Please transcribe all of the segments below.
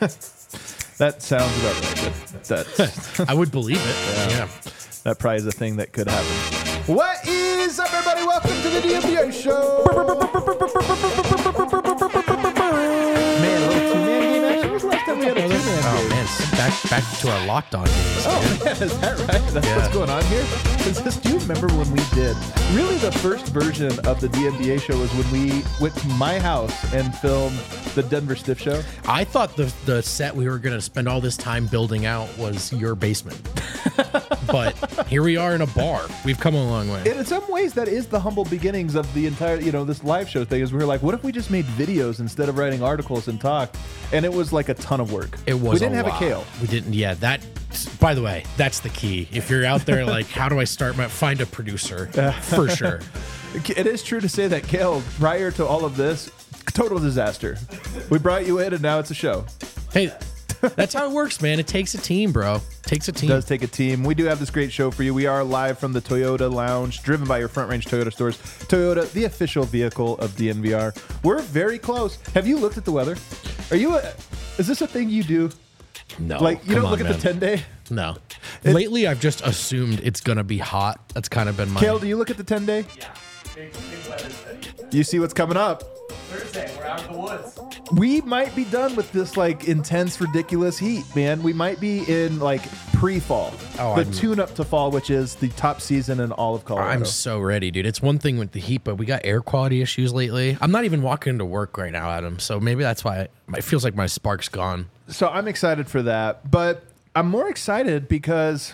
That sounds about right. That's I would believe it. Yeah. that probably is a thing that could happen. What is up, everybody? Welcome to the DMBA show. Man, a little two-man game action. When was the last time we had a two-man game? Oh man, back to our Locked On games. Oh man, is that right? That's what's going on here? Do you remember when we did? Really, the first version of the DMBA show was when we went to my house and filmed the Denver Stiff Show. I thought the set we were going to spend all this time building out was your basement. But here we are in a bar. We've come a long way. And in some ways, that is the humble beginnings of the entire, this live show thing. Is we were like, what if we just made videos instead of writing articles and talk? And it was like a ton of work. It was. We didn't have a Kale. We didn't. Yeah. That. By the way, that's the key. If you're out there, like, how do I start find a producer? For sure. It is true to say that Kale, prior to all of this, total disaster. We brought you in, and now it's a show. Hey. That's how it works, man. It takes a team, bro. It takes a team. It does take a team. We do have this great show for you. We are live from the Toyota Lounge, driven by your Front Range Toyota stores. Toyota, the official vehicle of DNVR. We're very close. Have you looked at the weather? Is this a thing you do? No. Like, you don't look at the 10-day? No. Lately, I've just assumed it's going to be hot. That's kind of been my... Kale, do you look at the 10-day? Yeah. Big weather study. You see what's coming up. Thursday, we're out of the woods. We might be done with this intense, ridiculous heat, man. We might be in pre-fall, the tune-up to fall, which is the top season in all of Colorado. I'm so ready, dude. It's one thing with the heat, but we got air quality issues lately. I'm not even walking into work right now, Adam. So maybe that's why it feels like my spark's gone. So I'm excited for that, but I'm more excited because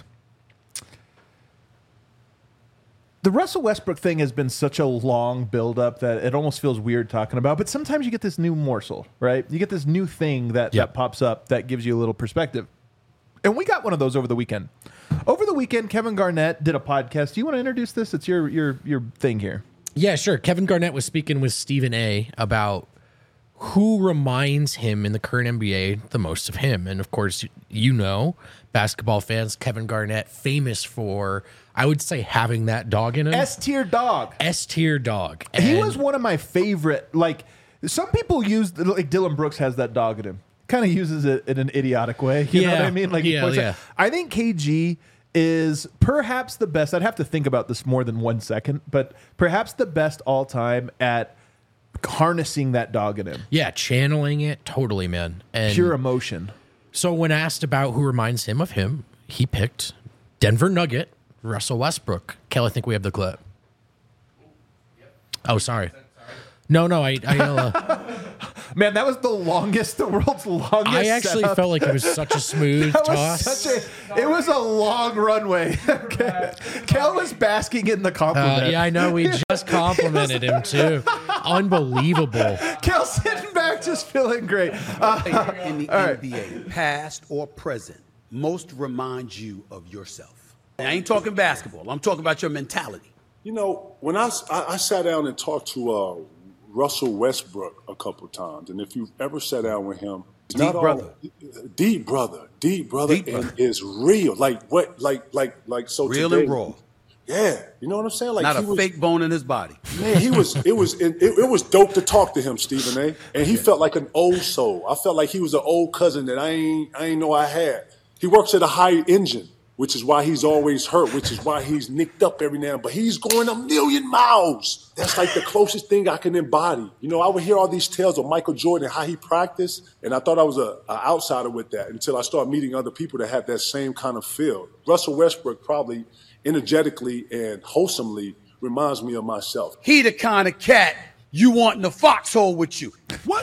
the Russell Westbrook thing has been such a long buildup that it almost feels weird talking about. But sometimes you get this new morsel, right? You get this new thing that pops up that gives you a little perspective. And we got one of those over the weekend. Over the weekend, Kevin Garnett did a podcast. Do you want to introduce this? It's your thing here. Yeah, sure. Kevin Garnett was speaking with Stephen A. about who reminds him in the current NBA the most of him. And of course, basketball fans, Kevin Garnett, famous for, I would say, having that dog in him. S-tier dog. S-tier dog. He was one of my favorite, some people use, Dylan Brooks has that dog in him. Kind of uses it in an idiotic way. You know what I mean? I think KG is perhaps the best. I'd have to think about this more than 1 second, but perhaps the best all time at harnessing that dog in him. Yeah, channeling it. Totally, man. And pure emotion. So when asked about who reminds him of him, he picked Denver Nugget, Russell Westbrook. Kel, I think we have the clip. Oh, sorry. No, Man, that was the world's longest. I actually setup. felt like it was such a smooth toss. It was a long runway. Okay. Kel was basking in the compliment. Yeah, I know. We just complimented him too. Unbelievable. Kel sitting back, just feeling great. In the NBA, past or present, most reminds you of yourself. I ain't talking basketball. I'm talking about your mentality. When I sat down and talked to Russell Westbrook a couple times, and if you've ever sat down with him, Deep brother, and is real. So real today, and raw. Yeah, you know what I'm saying? Not a fake bone in his body. Man, it was dope to talk to him, Stephen A. And he felt like an old soul. I felt like he was an old cousin that I ain't know I had. He works at a high engine, which is why he's always hurt, which is why he's nicked up every now and then. But he's going a million miles. That's like the closest thing I can embody. I would hear all these tales of Michael Jordan, how he practiced, and I thought I was an outsider with that until I started meeting other people that had that same kind of feel. Russell Westbrook probably energetically and wholesomely reminds me of myself. He the kind of cat you want in the foxhole with you. What?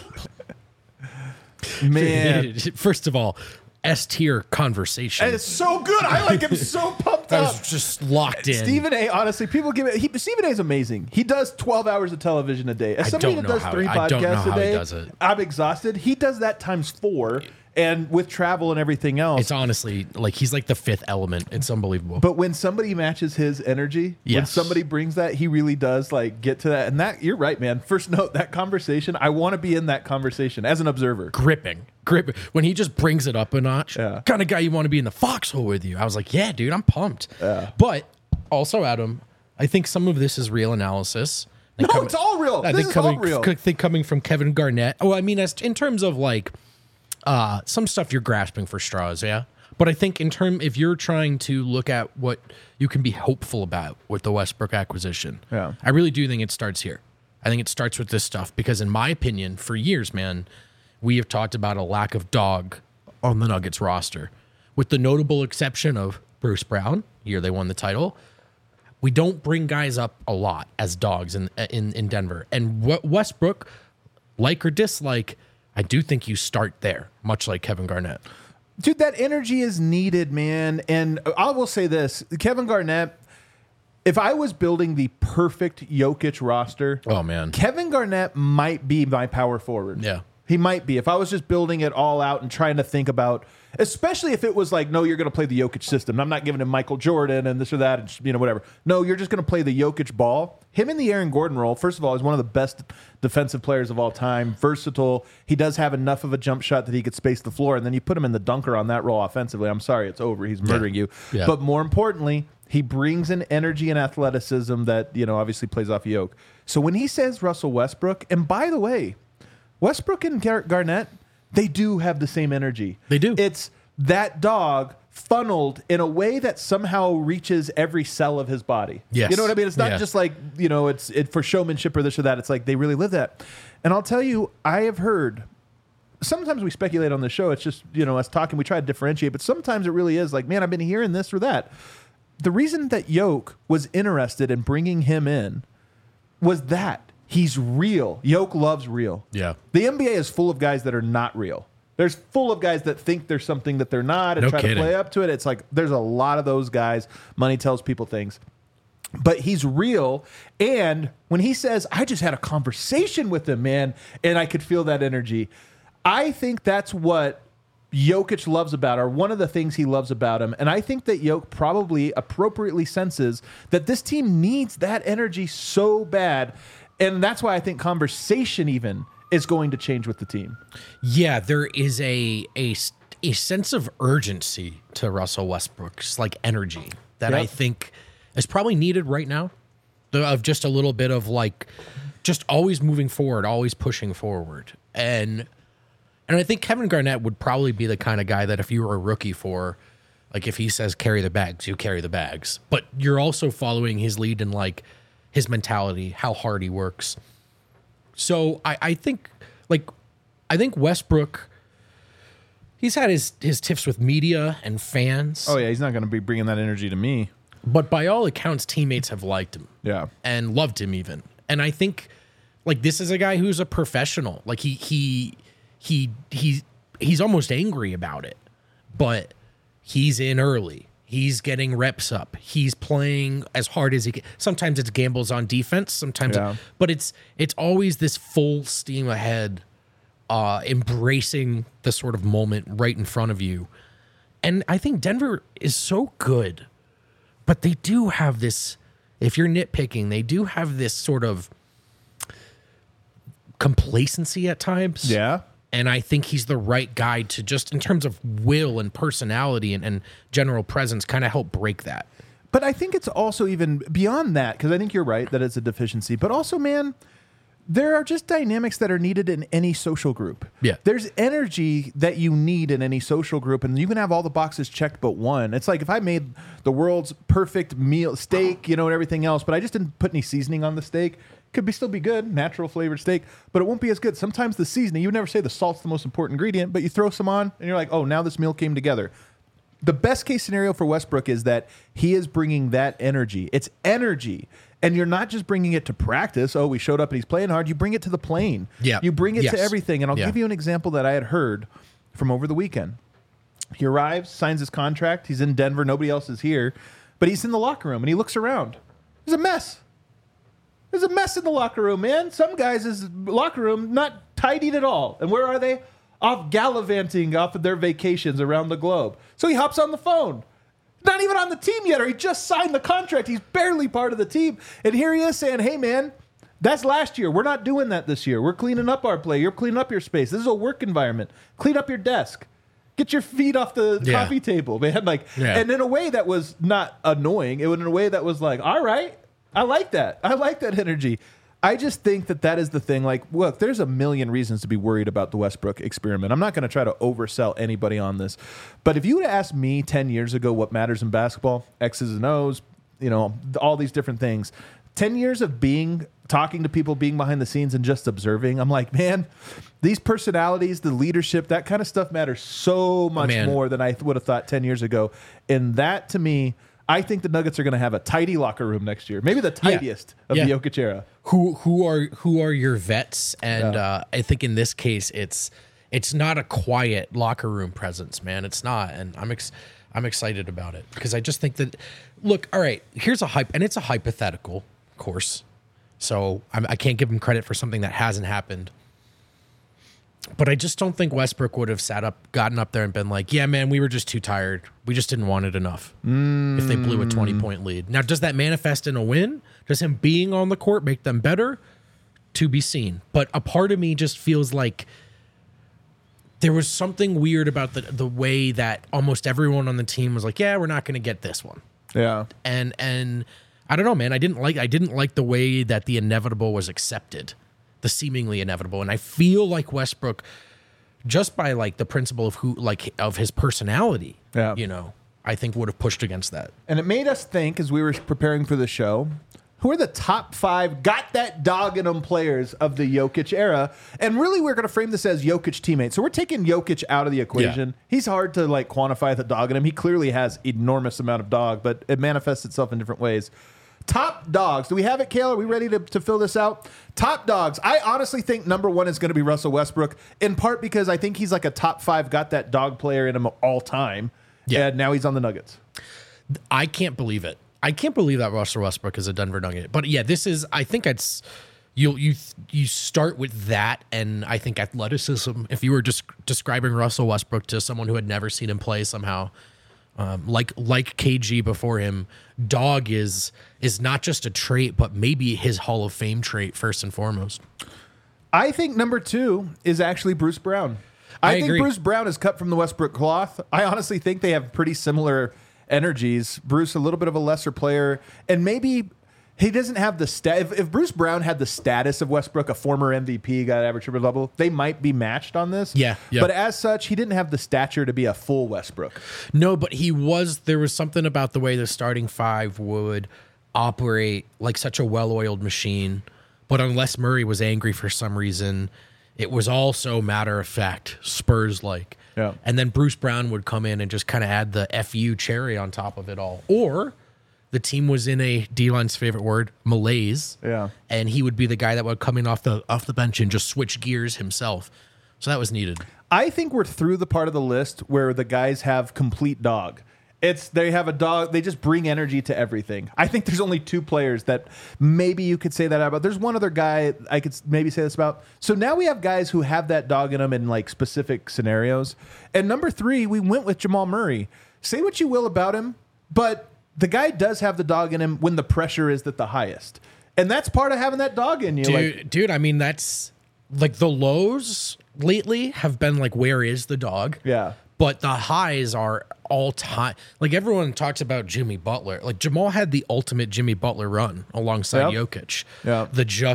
Man. First of all, S-tier conversation. And it's so good. I am so pumped I up. was just locked in. Stephen A, honestly, people give it. Stephen A is amazing. He does 12 hours of television a day. As somebody that does 3 podcasts a day, he does it. I'm exhausted. He does that times 4. And with travel and everything else. It's honestly he's like the fifth element. It's unbelievable. But when somebody matches his energy, when somebody brings that, he really does get to that. And that, you're right, man. First note, that conversation, I want to be in that conversation as an observer. Gripping. When he just brings it up a notch, kind of guy you want to be in the foxhole with you. I was like, yeah, dude, I'm pumped. But also, Adam, I think some of this is real analysis. It's all real. This is all real. I think coming from Kevin Garnett. Oh, I mean, in terms of Some stuff you're grasping for straws, yeah. But I think if you're trying to look at what you can be hopeful about with the Westbrook acquisition, I really do think it starts here. I think it starts with this stuff because, in my opinion, for years, man, we have talked about a lack of dog on the Nuggets roster, with the notable exception of Bruce Brown. Year they won the title. We don't bring guys up a lot as dogs in Denver. And Westbrook, like or dislike, I do think you start there, much like Kevin Garnett. Dude, that energy is needed, man. And I will say this, Kevin Garnett, if I was building the perfect Jokic roster, oh man, Kevin Garnett might be my power forward. Yeah. He might be. If I was just building it all out and trying to think about, especially if it was like, no, you're going to play the Jokic system. I'm not giving him Michael Jordan and this or that, and, whatever. No, you're just going to play the Jokic ball. Him in the Aaron Gordon role, first of all, is one of the best defensive players of all time. Versatile. He does have enough of a jump shot that he could space the floor, and then you put him in the dunker on that role offensively. I'm sorry, it's over. He's murdering you. Yeah. But more importantly, he brings an energy and athleticism that, obviously plays off Jokic. So when he says Russell Westbrook, and by the way, Westbrook and Garnett, they do have the same energy. They do. It's that dog funneled in a way that somehow reaches every cell of his body. Yes. You know what I mean? It's not just like, it's for showmanship or this or that. It's like they really live that. And I'll tell you, I have heard, sometimes we speculate on the show. It's just, us talking, we try to differentiate, but sometimes it really is like, man, I've been hearing this or that. The reason that Jokic was interested in bringing him in was that. He's real. Jokic loves real. Yeah. The NBA is full of guys that are not real. There's full of guys that think they're something that they're not and try to play up to it. It's like there's a lot of those guys. Money tells people things. But he's real. And when he says, I just had a conversation with him, man, and I could feel that energy, I think that's what Jokic loves about, or one of the things he loves about him. And I think that Jokic probably appropriately senses that this team needs that energy so bad. And that's why I think conversation even is going to change with the team. Yeah, there is a sense of urgency to Russell Westbrook's like energy that I think is probably needed right now. Of just a little bit of like just always moving forward, always pushing forward. And I think Kevin Garnett would probably be the kind of guy that if you were a rookie for, like if he says carry the bags, you carry the bags. But you're also following his lead in like his mentality, how hard he works. So I think Westbrook, he's had his tiffs with media and fans. Oh yeah, he's not going to be bringing that energy to me. But by all accounts, teammates have liked him. Yeah. And loved him even. And I think like this is a guy who's a professional. Like he's almost angry about it. But he's in early. He's getting reps up. He's playing as hard as he can. Sometimes it's gambles on defense. Sometimes, but it's always this full steam ahead, embracing the sort of moment right in front of you. And I think Denver is so good, but they do have this. If you're nitpicking, they do have this sort of complacency at times. Yeah. And I think he's the right guy to just, in terms of will and personality and general presence, kind of help break that. But I think it's also even beyond that, because I think you're right that it's a deficiency. But also, man, there are just dynamics that are needed in any social group. Yeah. There's energy that you need in any social group, and you can have all the boxes checked but one. It's like if I made the world's perfect meal, steak, and everything else, but I just didn't put any seasoning on the steak. Could still be good, natural flavored steak, but it won't be as good. Sometimes the seasoning, you would never say the salt's the most important ingredient, but you throw some on and you're like, oh, now this meal came together. The best case scenario for Westbrook is that he is bringing that energy. It's energy. And you're not just bringing it to practice. Oh, we showed up and he's playing hard. You bring it to the plane. Yeah. You bring it to everything. And I'll give you an example that I had heard from over the weekend. He arrives, signs his contract. He's in Denver. Nobody else is here. But he's in the locker room and he looks around. There's a mess. There's a mess in the locker room, man. Some guys' locker room not tidied at all. And where are they? Off gallivanting off of their vacations around the globe. So he hops on the phone. Not even on the team yet, or he just signed the contract. He's barely part of the team. And here he is saying, hey, man, that's last year. We're not doing that this year. We're cleaning up our play. You're cleaning up your space. This is a work environment. Clean up your desk. Get your feet off the coffee table, man. And in a way that was not annoying. It was in a way that was like, all right. I like that. I like that energy. I just think that is the thing. Like, look, there's a million reasons to be worried about the Westbrook experiment. I'm not going to try to oversell anybody on this. But if you would have asked me 10 years ago what matters in basketball, X's and O's, all these different things, 10 years of talking to people, being behind the scenes and just observing, I'm like, man, these personalities, the leadership, that kind of stuff matters so much more than I would have thought 10 years ago. And that, to me, I think the Nuggets are going to have a tidy locker room next year, maybe the tidiest of the Jokic era. Who are your vets? And I think in this case, it's not a quiet locker room presence, man. It's not, and I'm excited about it because I just think that. Look, all right, here's a hype, and it's a hypothetical, of course. So I can't give him credit for something that hasn't happened. But I just don't think Westbrook would have gotten up there and been like, yeah, man, we were just too tired. We just didn't want it enough if they blew a 20-point lead. Now, does that manifest in a win? Does him being on the court make them better? To be seen. But a part of me just feels like there was something weird about the way that almost everyone on the team was like, yeah, we're not going to get this one. Yeah. And I don't know, man. I didn't like the way that the inevitable was accepted. The seemingly inevitable. And I feel like Westbrook, just by like the principle of of his personality, I think would have pushed against that. And it made us think, as we were preparing for the show, who are the top 5 got that dog in them players of the Jokic era? And really, we're going to frame this as Jokic teammates. So we're taking Jokic out of the equation. Yeah. He's hard to like quantify the dog in him. He clearly has enormous amount of dog, but it manifests itself in different ways. Top dogs. Do we have it, Kale? Are we ready to fill this out? Top dogs. I honestly think number 1 is going to be Russell Westbrook, in part because I think he's like a top 5 got that dog player in him all time. Yeah. And now he's on the Nuggets. I can't believe it. I can't believe that Russell Westbrook is a Denver Nugget. But yeah, I think it's you start with that, and I think athleticism. If you were just describing Russell Westbrook to someone who had never seen him play somehow, like KG before him, dog is not just a trait, but maybe his Hall of Fame trait first and foremost. I think number 2 is actually Bruce Brown. I think agree. Bruce Brown is cut from the Westbrook cloth. I honestly think they have pretty similar energies. Bruce, a little bit of a lesser player, and maybe he doesn't have the if Bruce Brown had the status of Westbrook, a former MVP, got average triple double, they might be matched on this. Yeah. But as such, he didn't have the stature to be a full Westbrook. No, but there was something about the way the starting 5 would operate like such a well-oiled machine. But unless Murray was angry for some reason, it was also matter of fact, Spurs-like. Yeah. And then Bruce Brown would come in and just kind of add the FU cherry on top of it all. Or the team was in a D-line's favorite word, malaise. Yeah. And he would be the guy that would come in off the bench and just switch gears himself. So that was needed. I think we're through the part of the list where the guys have complete dog. They have a dog. They just bring energy to everything. I think there's only 2 players that maybe you could say that about. There's one other guy I could maybe say this about. So now we have guys who have that dog in them in like specific scenarios. And number 3, we went with Jamal Murray. Say what you will about him, but the guy does have the dog in him when the pressure is at the highest. And that's part of having that dog in you. Dude, I mean, that's like the lows lately have been like, where is the dog? Yeah. But the highs are all time. Like everyone talks about Jimmy Butler. Like Jamal had the ultimate Jimmy Butler run alongside Jokic. Yeah.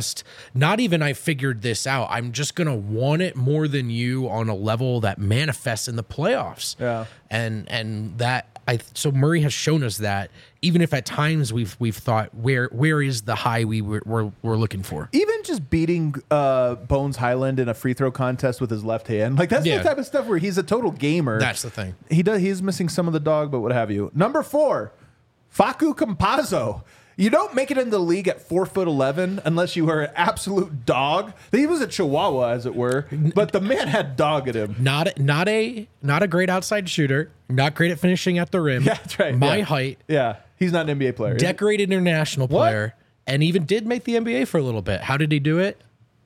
Not even I figured this out. I'm just going to want it more than you on a level that manifests in the playoffs. Yeah. And that so Murray has shown us that, even if at times we've thought where is the high we're looking for. Even just beating Bones Highland in a free throw contest with his left hand, like that's the type of stuff where he's a total gamer. That's the thing. He's missing some of the dog, but what have you. Number 4, Facu Campazzo. You don't make it in the league at 4'11" unless you are an absolute dog. He was a chihuahua, as it were, but the man had dog at him. Not a great outside shooter. Not great at finishing at the rim. Yeah, that's right. My height. Yeah, he's not an NBA player. Decorated international player, and even did make the NBA for a little bit. How did he do it?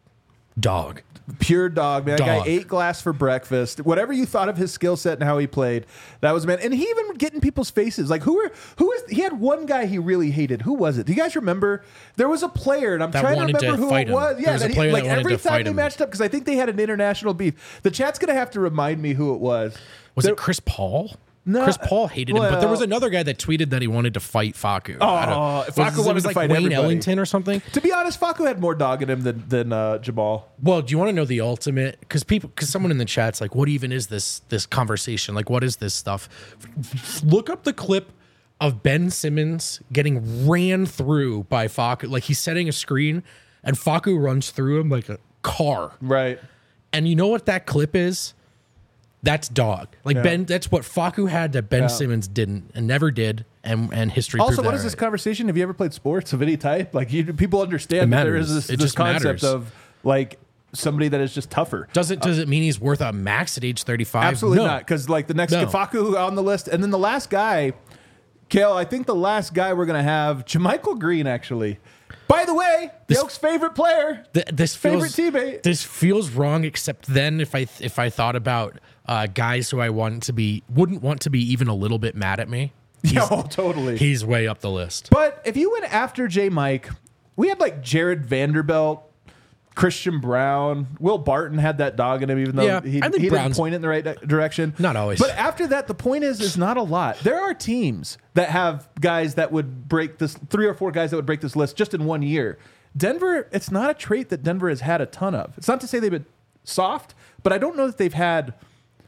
Dog. Pure dog, man. That guy ate glass for breakfast. Whatever you thought of his skill set and how he played, that was man. And he even would get in people's faces. Like he had one guy he really hated. Who was it? Do you guys remember? There was a player, and I'm trying to remember who it was. Yeah, like every time they matched up, because I think they had an international beef. The chat's gonna have to remind me who it was. Was it Chris Paul? No, Chris Paul hated him, but there was another guy that tweeted that he wanted to fight Facu. Facu wanted to fight Wayne everybody. Ellington or something. To be honest, Facu had more dog in him than Jamal. Well, do you want to know the ultimate? Because someone in the chat's like, "What even is this conversation? Like, what is this stuff?" Look up the clip of Ben Simmons getting ran through by Facu. Like he's setting a screen, and Facu runs through him like a car. Right. And you know what that clip is? That's dog. Like Ben, that's what Facu had that Ben Simmons didn't and never did, and history. Also, proved what that is this right. conversation? Have you ever played sports of any type? Like people understand that there is this concept of like somebody that is just tougher. Does it mean he's worth a max at age 35? Absolutely No. not. Because like the next Facu on the list, and then the last guy, Kale. I think the last guy we're gonna have JaMychal Green actually. By the way, Yoke's favorite player, favorite teammate. This feels wrong, except then if I thought about guys who wouldn't want to be even a little bit mad at me. Totally. He's way up the list. But if you went after J. Mike, we had like Jared Vanderbilt, Christian Brown, Will Barton had that dog in him, even though he didn't point it in the right direction. Not always. But after that, the point is not a lot. There are teams that have guys that would break this, 3 or 4 guys that would break this list just in 1 year. Denver, it's not a trait that Denver has had a ton of. It's not to say they've been soft, but I don't know that they've had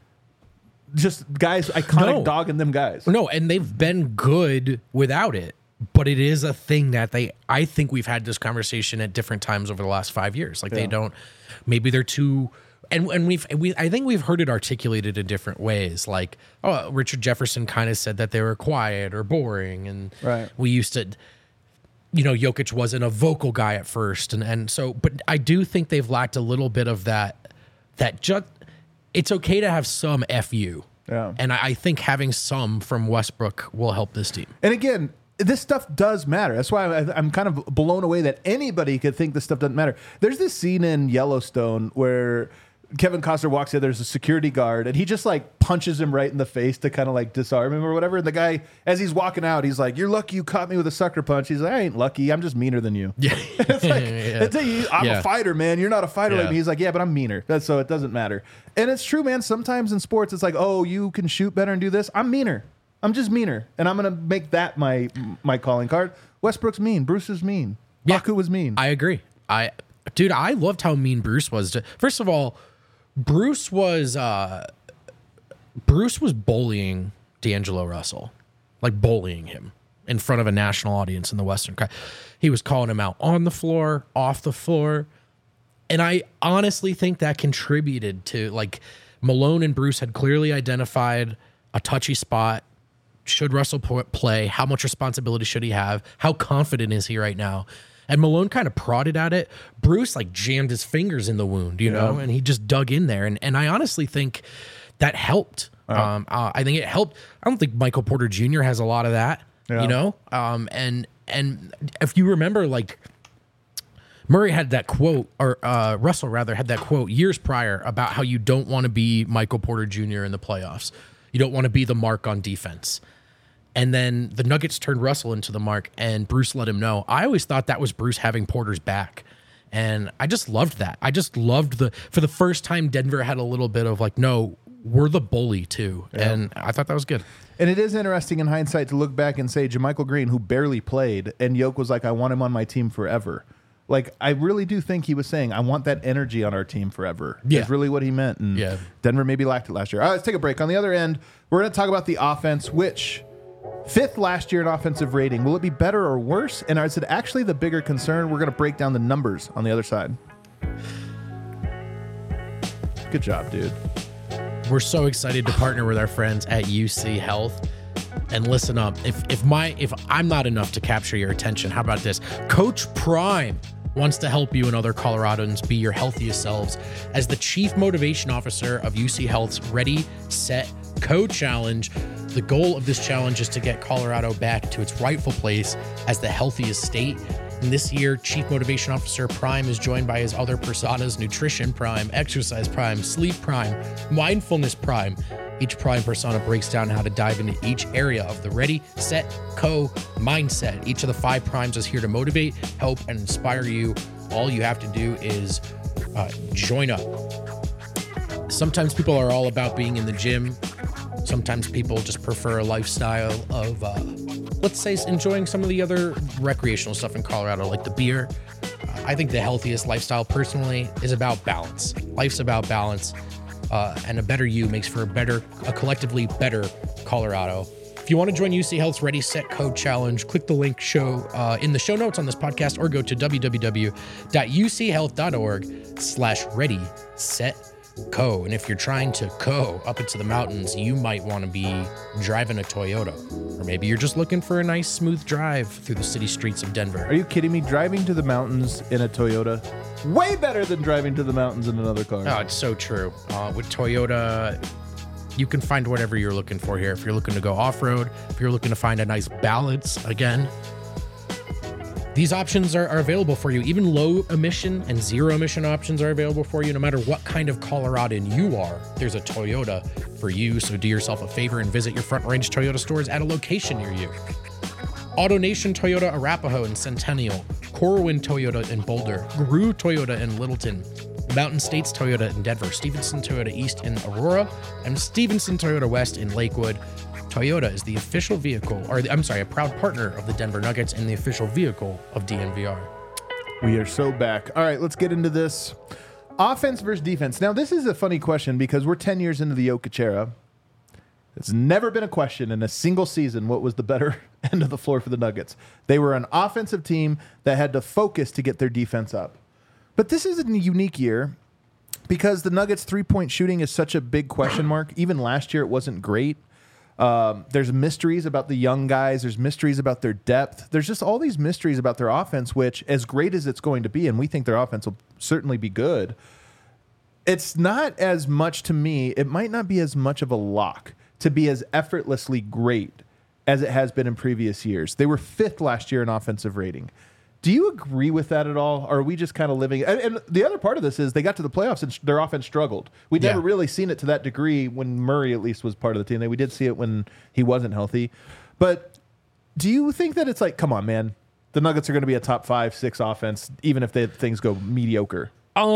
just guys, iconic dog in them guys. No, and they've been good without it. But it is a thing that I think we've had this conversation at different times over the last 5 years. Like they don't, maybe they're too, and I think we've heard it articulated in different ways. Like, Richard Jefferson kind of said that they were quiet or boring. And we used to, Jokic wasn't a vocal guy at first. And so, but I do think they've lacked a little bit of that just, it's okay to have some FU. Yeah. And I think having some from Westbrook will help this team. And again, this stuff does matter. That's why I'm kind of blown away that anybody could think this stuff doesn't matter. There's this scene in Yellowstone where Kevin Costner walks in, there's a security guard, and he just like punches him right in the face to kind of like disarm him or whatever. And the guy, as he's walking out, he's like, "You're lucky you caught me with a sucker punch." He's like, "I ain't lucky. I'm just meaner than you." Yeah. It's like, I'm a fighter, man. You're not a fighter like me. He's like, "Yeah, but I'm meaner." So it doesn't matter. And it's true, man. Sometimes in sports, it's like, "Oh, you can shoot better and do this." I'm meaner. I'm just meaner, and I'm gonna make that my calling card. Westbrook's mean. Bruce is mean. Facu was mean. I agree. I loved how mean Bruce was. First of all, Bruce was bullying D'Angelo Russell, like bullying him in front of a national audience in the Western. He was calling him out on the floor, off the floor, and I honestly think that contributed to, like, Malone and Bruce had clearly identified a touchy spot. Should Russell play? How much responsibility should he have? How confident is he right now? And Malone kind of prodded at it. Bruce like jammed his fingers in the wound, you know, and he just dug in there. And I honestly think that helped. I think it helped. I don't think Michael Porter Jr. has a lot of that, you know? And if you remember, like, Murray had that quote, or Russell rather had that quote years prior about how you don't want to be Michael Porter Jr. in the playoffs. You don't want to be the mark on defense. And then the Nuggets turned Russell into the mark, and Bruce let him know. I always thought that was Bruce having Porter's back. And I just loved that. I just loved for the first time, Denver had a little bit of like, no, we're the bully too. Yeah. And I thought that was good. And it is interesting in hindsight to look back and say JaMychal Green, who barely played, and Yoke was like, I want him on my team forever. Like, I really do think he was saying, I want that energy on our team forever. Yeah. That's really what he meant. And Denver maybe lacked it last year. All right, let's take a break. On the other end, we're going to talk about the offense, which 5th last year in offensive rating. Will it be better or worse? And is it actually the bigger concern? We're going to break down the numbers on the other side. Good job, dude. We're so excited to partner with our friends at UC Health. And listen up, if I'm not enough to capture your attention, how about this? Coach Prime wants to help you and other Coloradans be your healthiest selves. As the Chief Motivation Officer of UC Health's Ready, Set, Co Challenge, the goal of this challenge is to get Colorado back to its rightful place as the healthiest state. And this year, Chief Motivation Officer Prime is joined by his other personas, Nutrition Prime, Exercise Prime, Sleep Prime, Mindfulness Prime. Each Prime persona breaks down how to dive into each area of the Ready, Set, Co mindset. Each of the 5 primes is here to motivate, help, and inspire you. All you have to do is join up. Sometimes people are all about being in the gym. Sometimes people just prefer a lifestyle of, let's say, enjoying some of the other recreational stuff in Colorado, like the beer. I think the healthiest lifestyle, personally, is about balance. Life's about balance, and a better you makes for a collectively better Colorado. If you want to join UC Health's Ready, Set, Code Challenge, click the link in the show notes on this podcast, or go to www.uchealth.org/ready, set, co. And if you're trying to go up into the mountains, you might want to be driving a Toyota. Or maybe you're just looking for a nice, smooth drive through the city streets of Denver. Are you kidding me? Driving to the mountains in a Toyota? Way better than driving to the mountains in another car. Oh, it's so true. With Toyota, you can find whatever you're looking for here. If you're looking to go off-road, if you're looking to find a nice balance, again, these options are available for you. Even low emission and zero emission options are available for you. No matter what kind of Coloradan you are, there's a Toyota for you. So do yourself a favor and visit your Front Range Toyota stores at a location near you. AutoNation Toyota Arapahoe in Centennial, Corwin Toyota in Boulder, Gru Toyota in Littleton, Mountain States Toyota in Denver, Stevenson Toyota East in Aurora, and Stevenson Toyota West in Lakewood. Toyota is the official vehicle, a proud partner of the Denver Nuggets and the official vehicle of DNVR. We are so back. All right, let's get into this. Offense versus defense. Now, this is a funny question because we're 10 years into the Jokic era. It's never been a question in a single season what was the better end of the floor for the Nuggets. They were an offensive team that had to focus to get their defense up. But this is a unique year because the Nuggets' three-point shooting is such a big question mark. Even last year, it wasn't great. There's mysteries about the young guys. There's mysteries about their depth. There's just all these mysteries about their offense, which, as great as it's going to be, and we think their offense will certainly be good, it's not as much, to me, it might not be as much of a lock to be as effortlessly great as it has been in previous years. They were 5th last year in offensive rating. Do you agree with that at all? Or are we just kind of living? And the other part of this is they got to the playoffs and their offense struggled. We'd never really seen it to that degree when Murray at least was part of the team. We did see it when he wasn't healthy. But do you think that it's like, come on, man, the Nuggets are going to be a top 5, 6 offense, even if things go mediocre?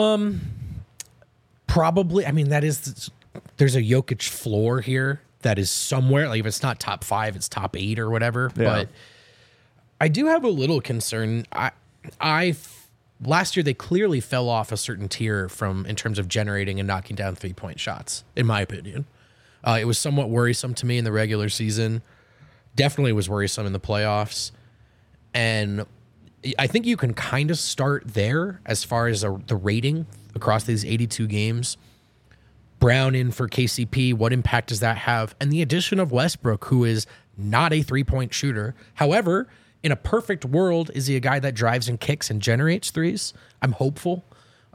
Probably. I mean, there's a Jokic floor here that is somewhere. Like if it's not top 5, it's top 8 or whatever. Yeah. But I do have a little concern. Last year they clearly fell off a certain tier in terms of generating and knocking down 3-point shots, in my opinion. It was somewhat worrisome to me in the regular season. Definitely was worrisome in the playoffs. And I think you can kind of start there as far as the rating across these 82 games. Brown in for KCP, what impact does that have? And the addition of Westbrook, who is not a 3-point shooter. However, in a perfect world, is he a guy that drives and kicks and generates threes? I'm hopeful.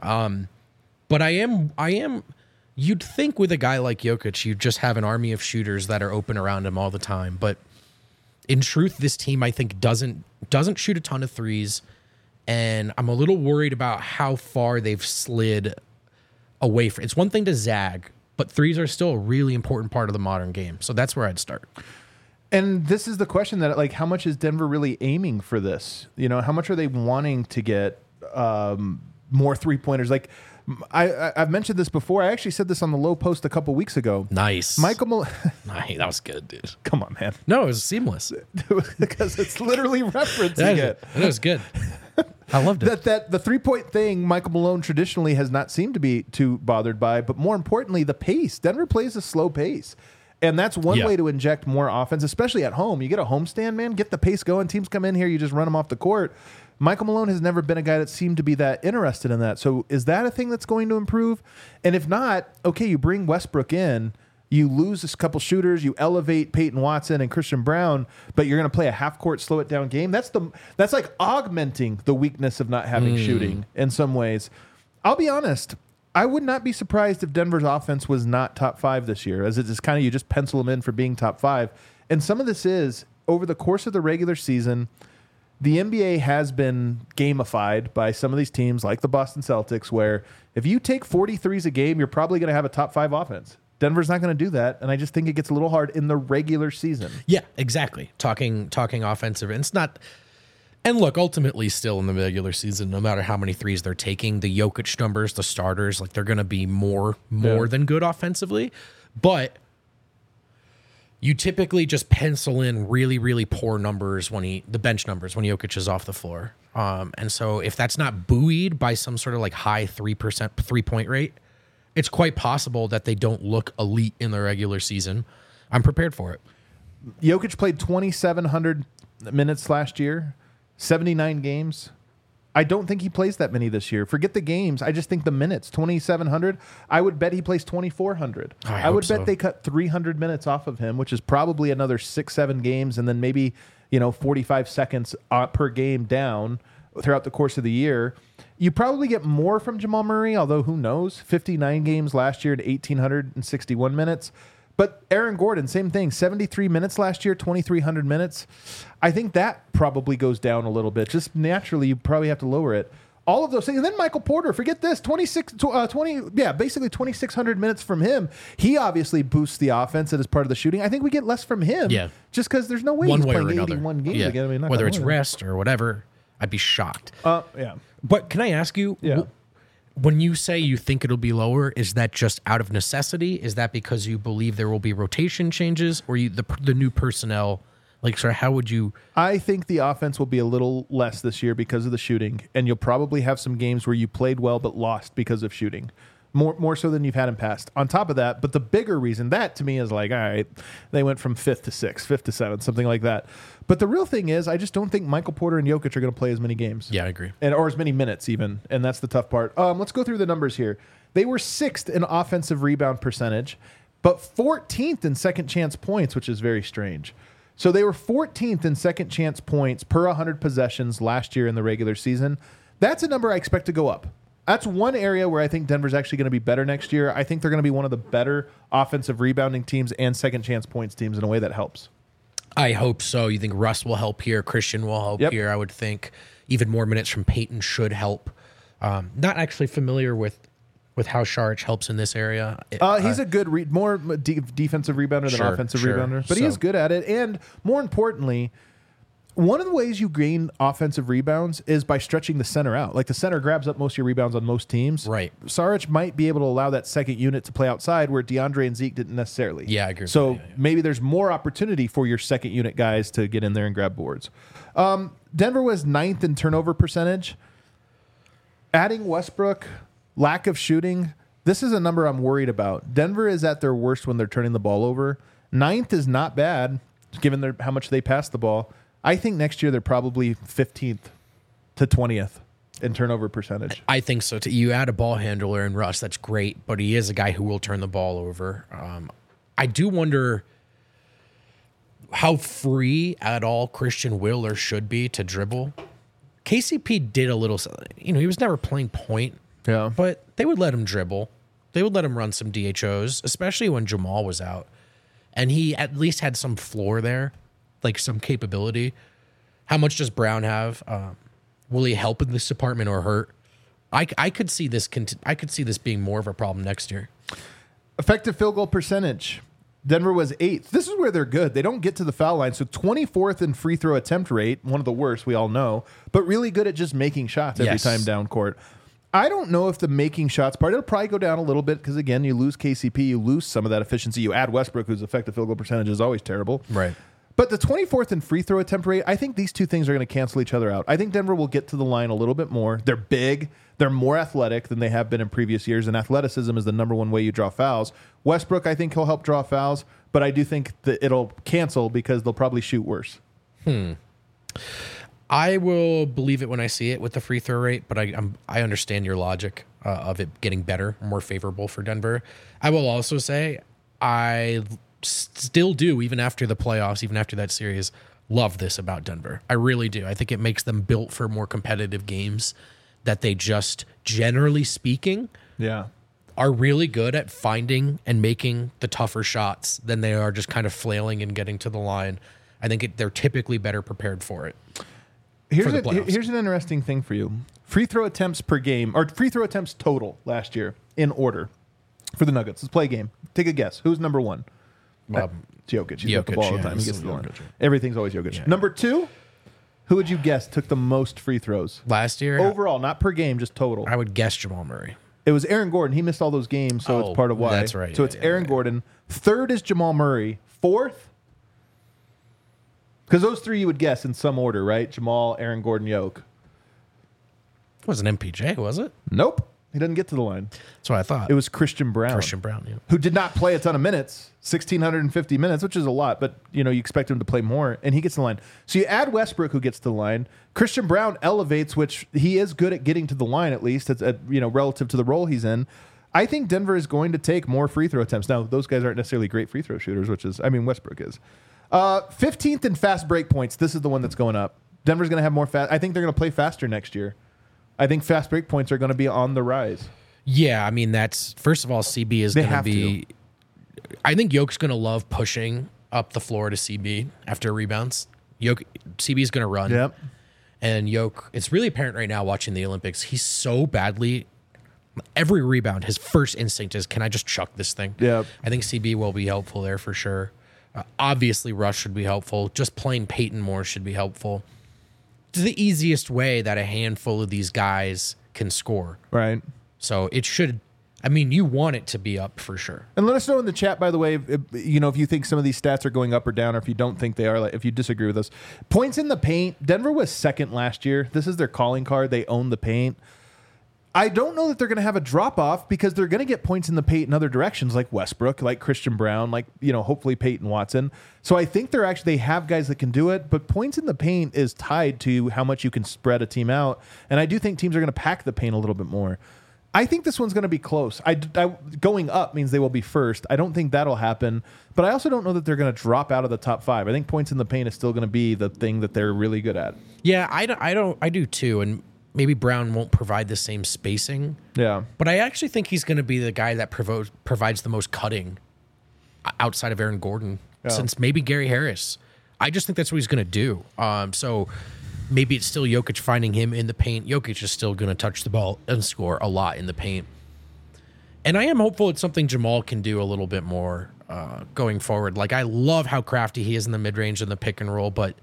But I am, you'd think with a guy like Jokic, you'd just have an army of shooters that are open around him all the time. But in truth, this team, I think, doesn't shoot a ton of threes. And I'm a little worried about how far they've slid away from. It's one thing to zag, but threes are still a really important part of the modern game. So that's where I'd start. And this is the question that, like, how much is Denver really aiming for this? You know, how much are they wanting to get more 3-pointers? Like, I've mentioned this before. I actually said this on the Low Post a couple weeks ago. Nice. Michael Malone. Nice. That was good, dude. Come on, man. No, it was seamless. Because it's literally referencing it. It was good. I loved it. That the 3-point thing, Michael Malone traditionally has not seemed to be too bothered by, but more importantly, the pace. Denver plays a slow pace. And that's one way to inject more offense, especially at home. You get a homestand, man, get the pace going. Teams come in here, you just run them off the court. Michael Malone has never been a guy that seemed to be that interested in that. So is that a thing that's going to improve? And if not, okay, you bring Westbrook in, you lose a couple shooters, you elevate Peyton Watson and Christian Brown, but you're going to play a half-court, slow-it-down game. That's like augmenting the weakness of not having shooting in some ways. I'll be honest. I would not be surprised if Denver's offense was not top 5 this year, as it is kind of, you just pencil them in for being top 5. And some of this is, over the course of the regular season, the NBA has been gamified by some of these teams like the Boston Celtics, where if you take 43s a game, you're probably going to have a top 5 offense. Denver's not going to do that, and I just think it gets a little hard in the regular season. Yeah, exactly. Talking offensive, and it's not... And look, ultimately, still in the regular season, no matter how many threes they're taking, the Jokic numbers, the starters, like they're going to be more than good offensively. But you typically just pencil in really, really poor numbers the bench numbers when Jokic is off the floor. And so if that's not buoyed by some sort of like high 3% 3-point rate, it's quite possible that they don't look elite in the regular season. I'm prepared for it. Jokic played 2,700 minutes last year, 79 games. I don't think he plays that many this year. Forget the games. I just think the minutes, 2,700. I would bet he plays 2,400. I would bet they cut 300 minutes off of him, which is probably another 6-7 games, and then maybe 45 seconds per game down throughout the course of the year. You probably get more from Jamal Murray, although who knows? 59 games last year at 1,861 minutes. But Aaron Gordon, same thing, 73 minutes last year, 2,300 minutes. I think that probably goes down a little bit. Just naturally, you probably have to lower it. All of those things. And then Michael Porter, forget this, basically 2,600 minutes from him. He obviously boosts the offense as part of the shooting. I think we get less from him just because there's no way he's playing 81 games again. I mean, whether it's rest or whatever, I'd be shocked. Yeah. But can I ask you, when you say you think it'll be lower, is that just out of necessity? Is that because you believe there will be rotation changes, or the new personnel? Like, sorry, how would you? I think the offense will be a little less this year because of the shooting, and you'll probably have some games where you played well but lost because of shooting. More so than you've had in past. On top of that, but the bigger reason, that to me is like, all right, they went from 5th to 6th, 5th to 7th, something like that. But the real thing is, I just don't think Michael Porter and Jokic are going to play as many games. Yeah, I agree. Or as many minutes even, and that's the tough part. Let's go through the numbers here. They were 6th in offensive rebound percentage, but 14th in second chance points, which is very strange. So they were 14th in second chance points per 100 possessions last year in the regular season. That's a number I expect to go up. That's one area where I think Denver's actually going to be better next year. I think they're going to be one of the better offensive rebounding teams and second chance points teams in a way that helps. I hope so. You think Russ will help here? Christian will help here, I would think. Even more minutes from Peyton should help. Not actually familiar with how Šarić helps in this area. He's a good, more defensive rebounder than offensive rebounder, but he is good at it. And more importantly, one of the ways you gain offensive rebounds is by stretching the center out. Like the center grabs up most of your rebounds on most teams. Right. Šarić might be able to allow that second unit to play outside where DeAndre and Zeke didn't necessarily. Yeah, I agree. So maybe there's more opportunity for your second unit guys to get in there and grab boards. Denver was 9th in turnover percentage. Adding Westbrook, lack of shooting, this is a number I'm worried about. Denver is at their worst when they're turning the ball over. 9th is not bad, given how much they pass the ball. I think next year they're probably 15th to 20th in turnover percentage. I think so too. You add a ball handler in Russ, that's great, but he is a guy who will turn the ball over. I do wonder how free at all Christian will or should be to dribble. KCP did a little, he was never playing point, but they would let him dribble. They would let him run some DHOs, especially when Jamal was out. And he at least had some floor there. Like some capability. How much does Brown have? Will he help in this department or hurt? I could see this. I could see this being more of a problem next year. Effective field goal percentage. Denver was 8th. This is where they're good. They don't get to the foul line. So 24th in free throw attempt rate, one of the worst, we all know, but really good at just making shots every time down court. I don't know if the making shots part, it'll probably go down a little bit because, again, you lose KCP, you lose some of that efficiency. You add Westbrook, whose effective field goal percentage is always terrible. Right. But the 24th in free throw attempt rate, I think these two things are going to cancel each other out. I think Denver will get to the line a little bit more. They're big. They're more athletic than they have been in previous years, and athleticism is the number one way you draw fouls. Westbrook, I think he'll help draw fouls, but I do think that it'll cancel because they'll probably shoot worse. I will believe it when I see it with the free throw rate, but I understand your logic of it getting better, more favorable for Denver. I will also say I still do, even after the playoffs, even after that series, love this about Denver. I really do. I think it makes them built for more competitive games, that they just, generally speaking, are really good at finding and making the tougher shots than they are just kind of flailing and getting to the line. I think they're typically better prepared for it. Here's an interesting thing for you. Free throw attempts per game, or free throw attempts total last year in order for the Nuggets. Let's play a game. Take a guess. Who's number one? It's Jokic. He's got the ball all the time. He gets the line. Everything's always Jokic. Yeah. Number 2, who would you guess took the most free throws? Last year? Overall, not per game, just total. I would guess Jamal Murray. It was Aaron Gordon. He missed all those games, so it's part of why. That's right. So it's Aaron Gordon. 3rd is Jamal Murray. fourth? Because those three you would guess in some order, right? Jamal, Aaron Gordon, Yoke. It wasn't MPJ, was it? Nope. He doesn't get to the line. That's what I thought. It was Christian Brown. Christian Brown, yeah. Who did not play a ton of minutes, 1,650 minutes, which is a lot, but you expect him to play more, and he gets to the line. So you add Westbrook, who gets to the line. Christian Brown elevates, which he is good at getting to the line, at least, relative to the role he's in. I think Denver is going to take more free throw attempts. Now, those guys aren't necessarily great free throw shooters, Westbrook is. 15th in fast break points. This is the one that's going up. Denver's going to have more fast. I think they're going to play faster next year. I think fast break points are going to be on the rise. Yeah, I mean, that's, first of all, CB is going to be, I think Yoke's going to love pushing up the floor to CB after rebounds. CB is going to run. Yep. And Yoke, it's really apparent right now watching the Olympics, he's so badly, every rebound, his first instinct is, can I just chuck this thing? Yep. I think CB will be helpful there for sure. Obviously, Russ should be helpful. Just playing Peyton more should be helpful. It's the easiest way that a handful of these guys can score. Right. So it should, you want it to be up for sure. And let us know in the chat, by the way, if you think some of these stats are going up or down, or if you don't think they are, if you disagree with us. Points in the paint, Denver was second last year. This is their calling card. They own the paint. I don't know that they're going to have a drop-off because they're going to get points in the paint in other directions, like Westbrook, like Christian Brown, like, hopefully Peyton Watson. So I think they have guys that can do it, but points in the paint is tied to how much you can spread a team out. And I do think teams are going to pack the paint a little bit more. I think this one's going to be close. Going up means they will be first. I don't think that'll happen, but I also don't know that they're going to drop out of the top five. I think points in the paint is still going to be the thing that they're really good at. Yeah, I do too. And maybe Brown won't provide the same spacing. Yeah. But I actually think he's going to be the guy that provides the most cutting outside of Aaron Gordon, since maybe Gary Harris. I just think that's what he's going to do. So maybe it's still Jokic finding him in the paint. Jokic is still going to touch the ball and score a lot in the paint. And I am hopeful it's something Jamal can do a little bit more going forward. Like, I love how crafty he is in the mid-range and the pick and roll, but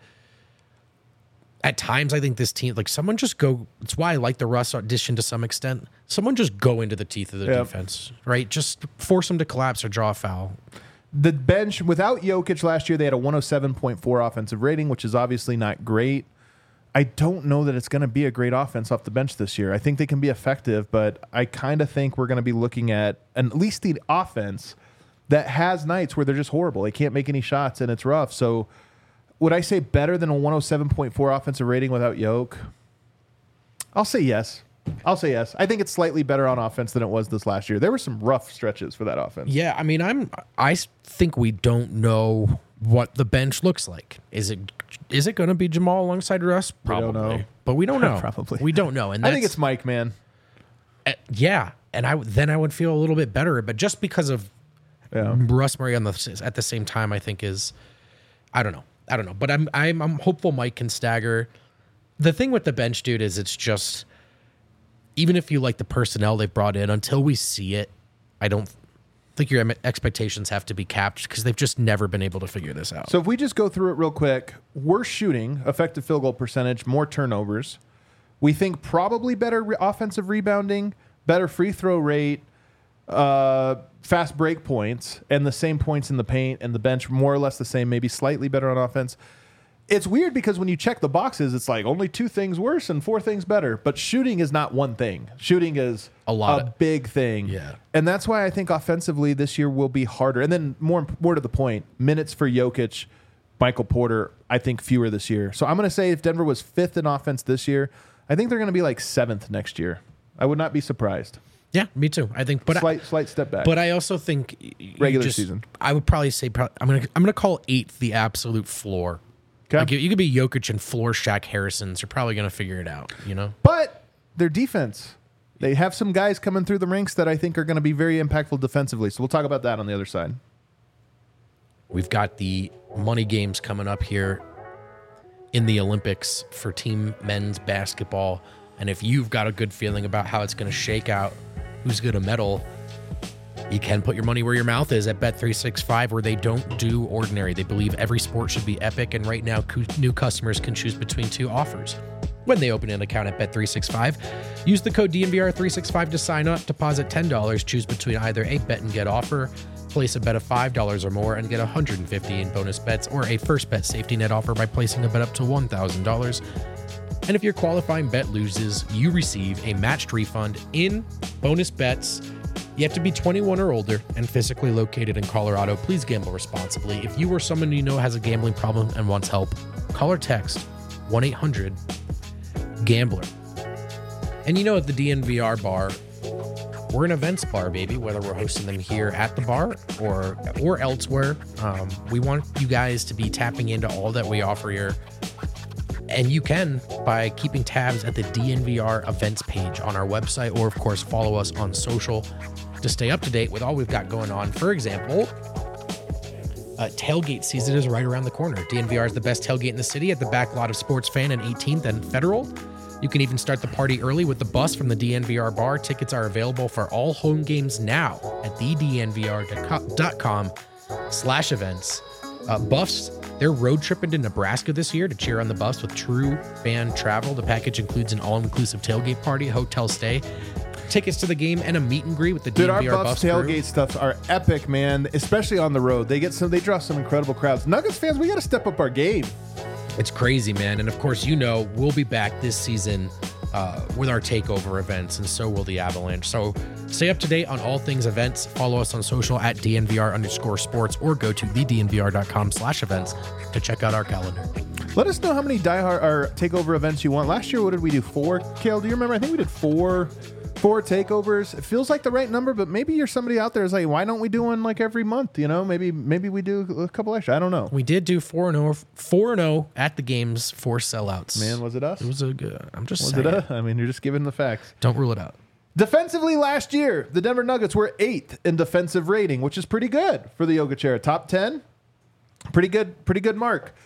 at times, I think this team, someone just go. It's why I like the Russ audition to some extent. Someone just go into the teeth of the defense, right? Just force them to collapse or draw a foul. The bench, without Jokic last year, they had a 107.4 offensive rating, which is obviously not great. I don't know that it's going to be a great offense off the bench this year. I think they can be effective, but I kind of think we're going to be looking at least the offense that has nights where they're just horrible. They can't make any shots, and it's rough. So would I say better than a 107.4 offensive rating without Yoke? I'll say yes. I think it's slightly better on offense than it was this last year. There were some rough stretches for that offense. Yeah, I think we don't know what the bench looks like. Is it going to be Jamal alongside Russ? Probably. We don't know. But we don't know. Probably. We don't know. And I think it's Mike, man. Yeah, and I would feel a little bit better, but just because of Russ Murray at the same time, I think is, I don't know. But I'm hopeful Mike can stagger. The thing with the bench, dude, is it's just, even if you like the personnel they've brought in, until we see it, I don't think your expectations have to be capped because they've just never been able to figure this out. So if we just go through it real quick, we're shooting effective field goal percentage, more turnovers. We think probably better offensive rebounding, better free throw rate, fast break points, and the same points in the paint, and the bench more or less the same, maybe slightly better on offense. It's weird because when you check the boxes, it's like only 2 things worse and 4 things better. But shooting is not one thing. Shooting is a big thing. Yeah. And that's why I think offensively this year will be harder. And then more to the point, minutes for Jokic, Michael Porter, I think fewer this year. So I'm going to say if Denver was 5th in offense this year, I think they're going to be like 7th next year. I would not be surprised. Yeah, me too. I think, but slight step back. But I also think regular season. I would probably say I'm gonna call 8th the absolute floor. Okay. Like you could be Jokic and floor Shaq Harrison's. You're probably gonna figure it out, But their defense, they have some guys coming through the ranks that I think are going to be very impactful defensively. So we'll talk about that on the other side. We've got the money games coming up here in the Olympics for team men's basketball, and if you've got a good feeling about how it's going to shake out, who's going to medal, you can put your money where your mouth is at Bet365, where they don't do ordinary. They believe every sport should be epic, and right now, new customers can choose between 2 offers when they open an account at Bet365. Use the code DNVR365 to sign up, deposit $10, choose between either a bet and get offer Place a bet of $5 or more and get $150 in bonus bets or a first bet safety net offer by placing a bet up to $1,000. And if your qualifying bet loses, you receive a matched refund in bonus bets. You have to be 21 or older and physically located in Colorado. Please gamble responsibly. If you or someone you know has a gambling problem and wants help, call or text 1-800-GAMBLER. And you know, at the DNVR bar, we're an events bar, baby, whether we're hosting them here at the bar or elsewhere. We want you guys to be tapping into all that we offer here. And you can by keeping tabs at the DNVR events page on our website, or of course, follow us on social to stay up to date with all we've got going on. For example, tailgate season is right around the corner. DNVR is the best tailgate in the city at the back lot of Sports Fan and 18th and Federal. You can even start the party early with the bus from the DNVR bar. Tickets are available for all home games now at thednvr.com/events. Buffs, they're road tripping to Nebraska this year to cheer on the Buffs with True Fan Travel. The package includes an all-inclusive tailgate party, hotel stay, tickets to the game, and a meet and greet with the DNVR our Buffs tailgate stuff are epic, man. Especially on the road, they draw some incredible crowds. Nuggets fans, we got to step up our game. It's crazy, man. And of course, you know, we'll be back this season with our takeover events, and so will the Avalanche. So stay up to date on all things events. Follow us on social at DNVR_sports or go to thednvr.com/events to check out our calendar. Let us know how many diehard or takeover events you want. Last year, what did we do? 4? Kale, do you remember? I think we did 4 takeovers. It feels like the right number, but maybe you're somebody out there who's like, why don't we do one like every month? You know, maybe we do a couple extra. I don't know. We did do 4-0 at the games, 4 sellouts. Man, was it us? It was a good. I'm just was saying. it us? I mean, you're just giving the facts. Don't rule it out. Defensively last year, the Denver Nuggets were 8th in defensive rating, which is pretty good for the Yoga Chair. Top 10, pretty good mark.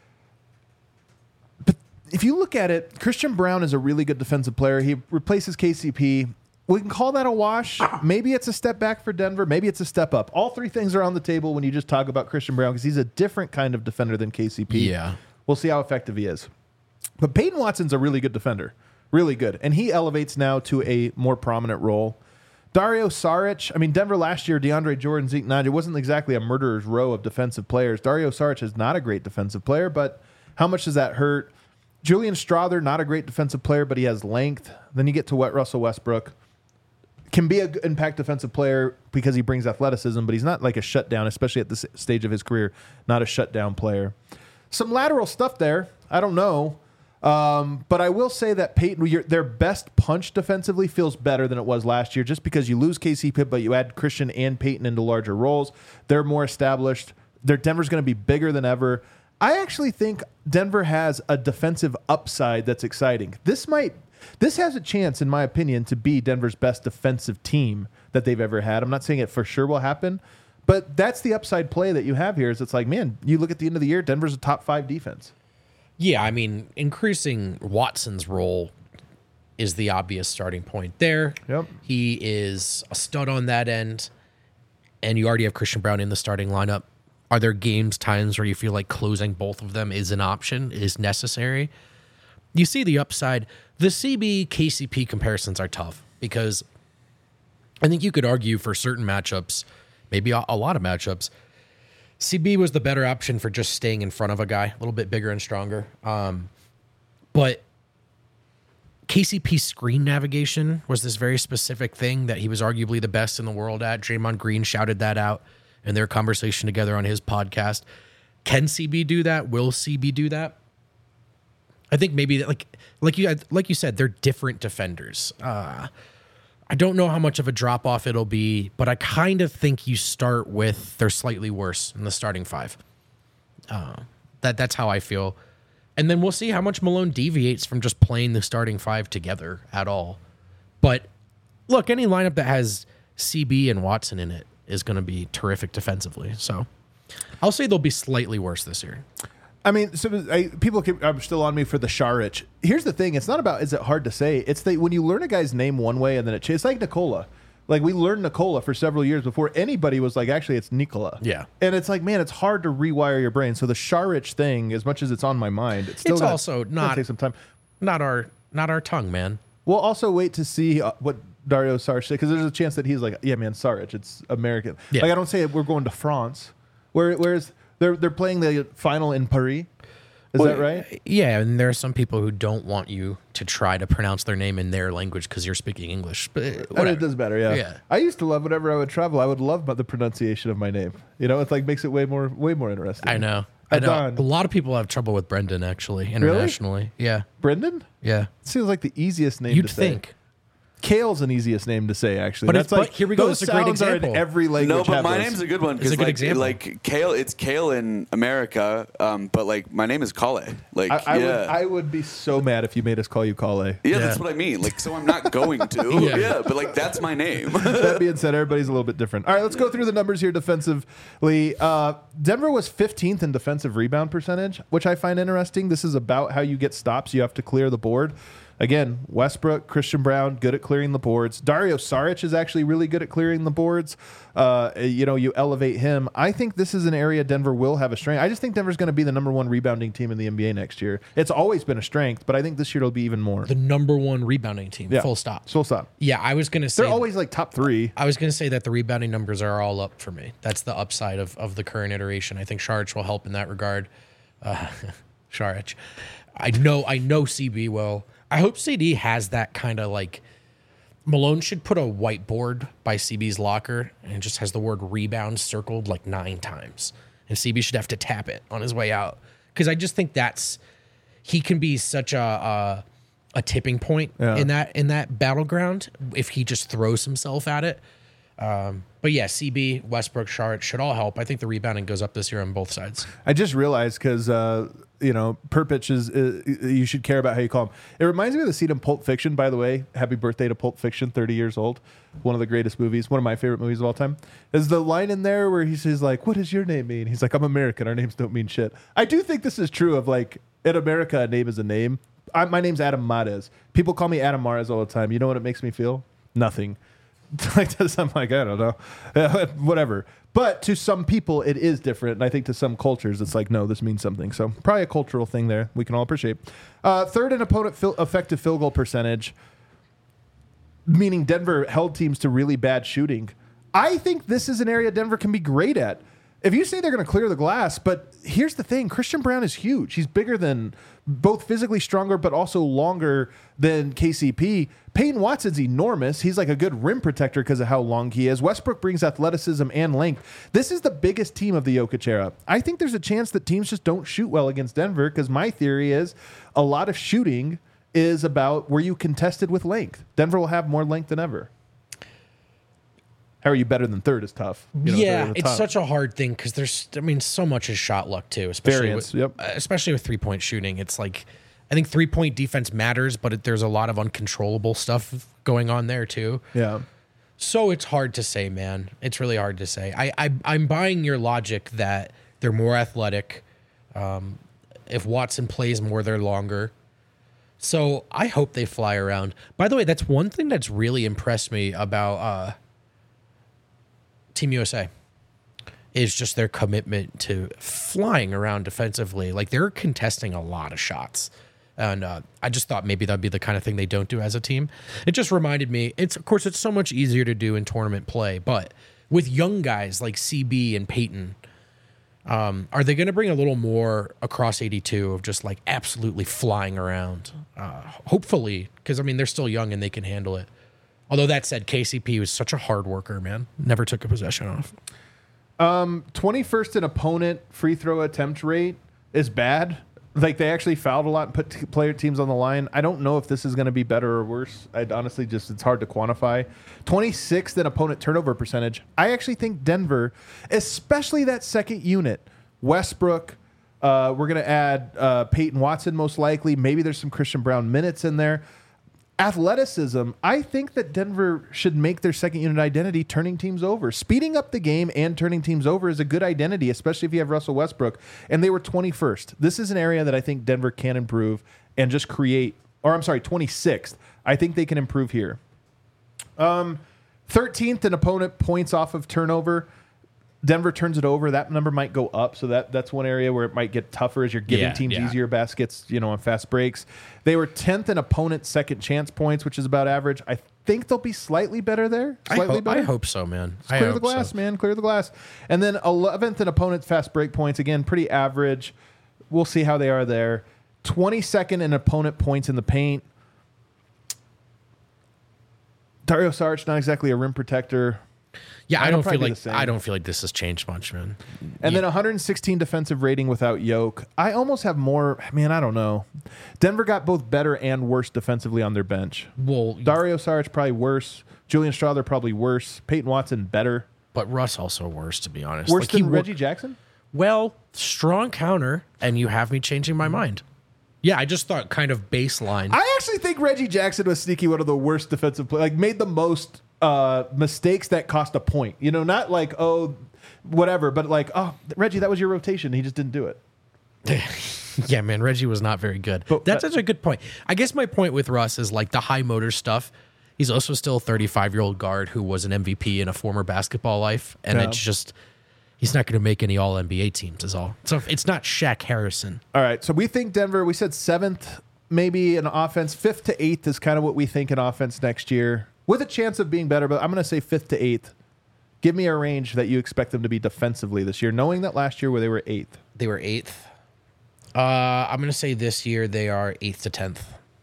If you look at it, Christian Braun is a really good defensive player. He replaces KCP. We can call that a wash. Maybe it's a step back for Denver. Maybe it's a step up. All 3 things are on the table when you just talk about Christian Braun because he's a different kind of defender than KCP. Yeah. We'll see how effective he is. But Peyton Watson's a really good defender. Really good. And he elevates now to a more prominent role. Dario Saric, I mean, Denver last year, DeAndre Jordan, Zeke Nnaji, wasn't exactly a murderer's row of defensive players. Dario Saric is not a great defensive player, but how much does that hurt? Julian Strawther, not a great defensive player, but he has length. Then you get to Russell Westbrook. Can be an impact defensive player because he brings athleticism, but he's not like a shutdown, especially at this stage of his career, not a shutdown player. Some lateral stuff there. I don't know. But I will say that Peyton, their best punch defensively feels better than it was last year just because you lose KCP, but you add Christian and Peyton into larger roles. They're more established. Denver's going to be bigger than ever. I actually think Denver has a defensive upside that's exciting. This has a chance, in my opinion, to be Denver's best defensive team that they've ever had. I'm not saying it for sure will happen, but that's the upside play that you have here is it's like, man, you look at the end of the year, Denver's a top 5 defense. Yeah, I mean, increasing Watson's role is the obvious starting point there. Yep. He is a stud on that end, and you already have Christian Braun in the starting lineup. Are there times where you feel like closing both of them is an option, is necessary? You see the upside. The CB-KCP comparisons are tough because I think you could argue for certain matchups, maybe a lot of matchups, CB was the better option for just staying in front of a guy, a little bit bigger and stronger. But KCP's screen navigation was this very specific thing that he was arguably the best in the world at. Draymond Green shouted that out in their conversation together on his podcast. Can CB do that? Will CB do that? I think maybe that, like you said, they're different defenders. I don't know how much of a drop off it'll be, but I kind of think you start with they're slightly worse in the starting 5. That's how I feel, and then we'll see how much Malone deviates from just playing the starting 5 together at all. But look, any lineup that has CB and Watson in it is going to be terrific defensively. So I'll say they'll be slightly worse this year. I mean, people are still on me for the Saric. Here's the thing. It's not about, is it hard to say? It's when you learn a guy's name one way and then it's like Nikola. Like we learned Nikola for several years before anybody was like, actually, it's Nikola. Yeah. And it's like, man, it's hard to rewire your brain. So the Saric thing, as much as it's on my mind, it's also not take some time. Not our tongue, man. We'll also wait to see what Dario Saric, because there's a chance that he's like, yeah, man, Saric, it's American. Yeah. Like I don't say we're going to France. Whereas they're playing the final in Paris. Is that right? Yeah, and there are some people who don't want you to try to pronounce their name in their language because you're speaking English. But it does better, yeah. I used to love whenever I would travel, I would love the pronunciation of my name. It's like makes it way more interesting. I know. A lot of people have trouble with Brendan, actually, internationally. Really? Yeah. Brendan? Yeah. It seems like the easiest name You'd to say. think. Kale's an easiest name to say, actually. But here we go. Those It's a great sounds are example. in every language. No, but my name's a good one It's a good example. like Kale. It's Kale in America, but like my name is Kale. Like I would be so mad if you made us call you Kale. Yeah, that's what I mean. Like, so I'm not going to. Yeah, but like that's my name. That being said, everybody's a little bit different. All right, let's go through the numbers here defensively. Denver was 15th in defensive rebound percentage, which I find interesting. This is about how you get stops. You have to clear the board. Again, Westbrook, Christian Brown, good at clearing the boards. Dario Saric is actually really good at clearing the boards. You elevate him. I think this is an area Denver will have a strength. I just think Denver's going to be the number one rebounding team in the NBA next year. It's always been a strength, but I think this year it'll be even more. The number one rebounding team, full stop. Full stop. Yeah, I was going to say. They're always like top 3. I was going to say that the rebounding numbers are all up for me. That's the upside of the current iteration. I think Saric will help in that regard. Saric. I know CB will. I hope CD has that kind of like Malone should put a whiteboard by CB's locker and it just has the word rebound circled like 9 times. And CB should have to tap it on his way out. Because I just think he can be such a tipping point in that battleground if he just throws himself at it. But yeah, CB, Westbrook, Saric should all help. I think the rebounding goes up this year on both sides. I just realized because Perpich is you should care about how you call him. It reminds me of the scene in Pulp Fiction, by the way. Happy birthday to Pulp Fiction, 30 years old. One of the greatest movies, one of my favorite movies of all time. Is the line in there where he says like, "What does your name mean?" He's like, "I'm American. Our names don't mean shit." I do think this is true of like in America, a name is a name. My name's Adam Mares. People call me Adam Mares all the time. You know what it makes me feel? Nothing. Like this, I'm like, I don't know, whatever. But to some people, it is different, and I think to some cultures, it's like, no, this means something. So probably a cultural thing there. We can all appreciate. Third in opponent effective field goal percentage, meaning Denver held teams to really bad shooting. I think this is an area Denver can be great at. If you say they're going to clear the glass, but here's the thing, Christian Brown is huge. He's bigger than, both physically stronger, but also longer than KCP. Peyton Watson's enormous. He's like a good rim protector because of how long he is. Westbrook brings athleticism and length. This is the biggest team of the Jokic era. I think there's a chance that teams just don't shoot well against Denver because my theory is a lot of shooting is about where you contested with length. Denver will have more length than ever. How are you better than third is tough. It's such a hard thing because so much is shot luck too, especially with 3-point shooting. It's like, I think 3-point defense matters, but there's a lot of uncontrollable stuff going on there too. Yeah. So it's hard to say, man. It's really hard to say. I'm buying your logic that they're more athletic. If Watson plays more, they're longer. So I hope they fly around. By the way, that's one thing that's really impressed me about Team USA is just their commitment to flying around defensively. Like they're contesting a lot of shots. And I just thought maybe that'd be the kind of thing they don't do as a team. It just reminded me, of course, it's so much easier to do in tournament play, but with young guys like CB and Peyton, are they going to bring a little more across 82 of just like absolutely flying around? Hopefully, because they're still young and they can handle it. Although that said, KCP was such a hard worker, man. Never took a possession off. 21st in opponent free throw attempt rate is bad. Like they actually fouled a lot and put player teams on the line. I don't know if this is going to be better or worse. I'd honestly it's hard to quantify. 26th in opponent turnover percentage. I actually think Denver, especially that second unit, Westbrook, we're going to add Peyton Watson most likely. Maybe there's some Christian Brown minutes in there. Athleticism, I think that Denver should make their second unit identity turning teams over. Speeding up the game and turning teams over is a good identity, especially if you have Russell Westbrook. And they were 21st. This is an area that I think Denver can improve and just create, 26th. I think they can improve here. 13th in opponent points off of turnover. Denver turns it over. That number might go up, so that's one area where it might get tougher as you're giving teams easier baskets, on fast breaks. They were 10th in opponent second chance points, which is about average. I think they'll be slightly better there. I hope so, man. Clear the glass, man. Clear the glass. And then 11th in opponent fast break points. Again, pretty average. We'll see how they are there. 22nd in opponent points in the paint. Dario Saric, not exactly a rim protector. Yeah, I don't feel like this has changed much, man. And then 116 defensive rating without Yoke. I almost have more. Man, I don't know. Denver got both better and worse defensively on their bench. Well, Dario Saric probably worse. Julian Strawther probably worse. Peyton Watson better. But Russ also worse, to be honest. Worse than Reggie Jackson? Well, strong counter, and you have me changing my mind. Yeah, I just thought kind of baseline. I actually think Reggie Jackson was sneaky one of the worst defensive players. Like, made the most mistakes that cost a point. You know, not like, oh, whatever, but like, oh, Reggie, that was your rotation. He just didn't do it. Yeah, man, Reggie was not very good. But that's such a good point. I guess my point with Russ is like the high motor stuff. He's also still a 35-year-old guard who was an MVP in a former basketball life. And it's just, he's not going to make any All-NBA teams is all. So it's not Shaq Harrison. All right, so we think Denver, we said 7th maybe in offense. 5th to 8th is kind of what we think in offense next year. With a chance of being better, but I'm going to say 5th to 8th. Give me a range that you expect them to be defensively this year, knowing that last year where they were 8th. They were 8th. I'm going to say this year they are 8th to 10th.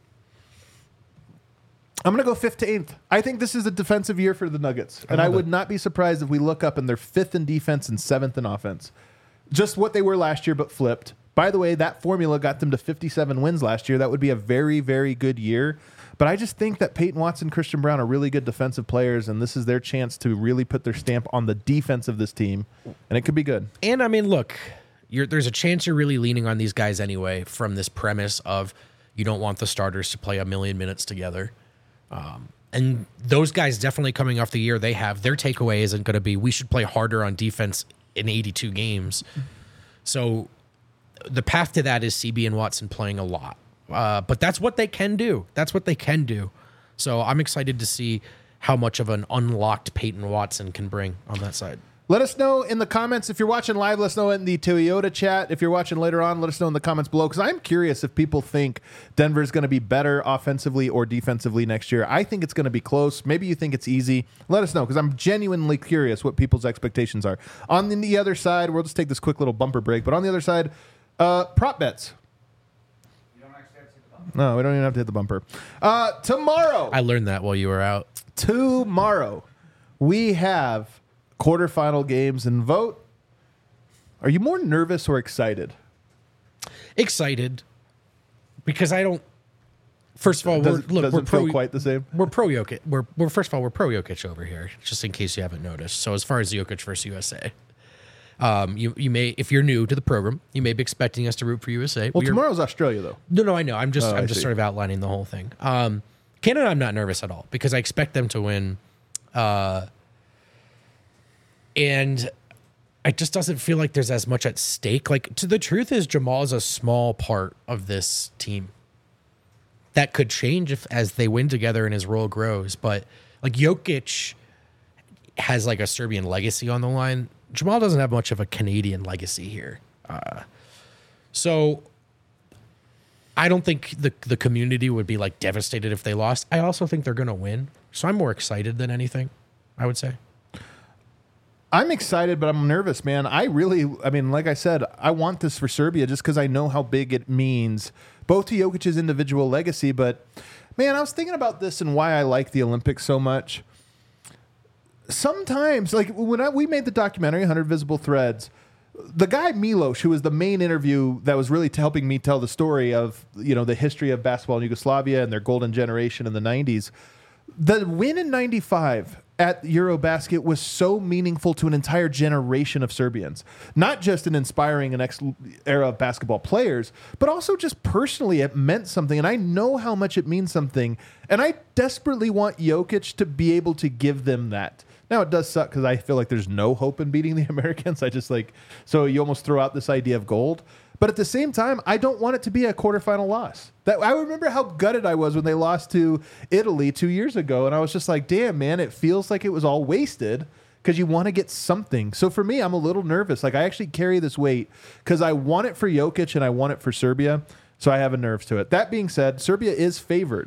I'm going to go 5th to 8th. I think this is a defensive year for the Nuggets. And I would not be surprised if we look up and they're 5th in defense and 7th in offense. Just what they were last year, but flipped. By the way, that formula got them to 57 wins last year. That would be a very, very good year. But I just think that Peyton Watson, Christian Brown are really good defensive players, and this is their chance to really put their stamp on the defense of this team, and it could be good. And, I mean, look, there's a chance you're really leaning on these guys anyway from this premise of you don't want the starters to play a million minutes together. And those guys definitely coming off the year they have, their takeaway isn't going to be we should play harder on defense in 82 games. So the path to that is CB and Watson playing a lot. But that's what they can do. So I'm excited to see how much of an unlocked Peyton Watson can bring on that side. Let us know in the comments. If you're watching live, let us know in the Toyota chat. If you're watching later on, let us know in the comments below, because I'm curious if people think Denver's going to be better offensively or defensively next year. I think it's going to be close. Maybe you think it's easy. Let us know, because I'm genuinely curious what people's expectations are. On the other side, we'll just take this quick little bumper break, but on the other side, prop bets. No, we don't even have to hit the bumper. Tomorrow. I learned that while you were out. Tomorrow, we have quarterfinal games and vote. Are you more nervous or excited? Excited. Because I don't. First of all, doesn't feel quite the same. We're pro Jokic. We're first of all, we're pro Jokic over here, just in case you haven't noticed. So as far as Jokic versus USA. You may, if you're new to the program, you may be expecting us to root for USA. Well, tomorrow's Australia, though. No, I know. I'm just sort of outlining the whole thing. Canada, I'm not nervous at all because I expect them to win. And it just doesn't feel like there's as much at stake. Like, the truth is, Jamal is a small part of this team. That could change as they win together and his role grows. But like Jokic has like a Serbian legacy on the line. Jamal doesn't have much of a Canadian legacy here. So I don't think the community would be like devastated if they lost. I also think they're going to win. So I'm more excited than anything, I would say. I'm excited, but I'm nervous, man. I mean, like I said, I want this for Serbia just because I know how big it means, both to Jokic's individual legacy, but man, I was thinking about this and why I like the Olympics so much. Sometimes, like when we made the documentary 100 Visible Threads, the guy Milos, who was the main interview that was really helping me tell the story of, the history of basketball in Yugoslavia and their golden generation in the 90s, the win in 95 at Eurobasket was so meaningful to an entire generation of Serbians. Not just in inspiring the next era of basketball players, but also just personally it meant something. And I know how much it means something. And I desperately want Jokic to be able to give them that. Now, it does suck because I feel like there's no hope in beating the Americans. So you almost throw out this idea of gold. But at the same time, I don't want it to be a quarterfinal loss. I remember how gutted I was when they lost to Italy 2 years ago. And I was just like, damn, man, it feels like it was all wasted because you want to get something. So for me, I'm a little nervous. Like, I actually carry this weight because I want it for Jokic and I want it for Serbia. So I have a nerves to it. That being said, Serbia is favored.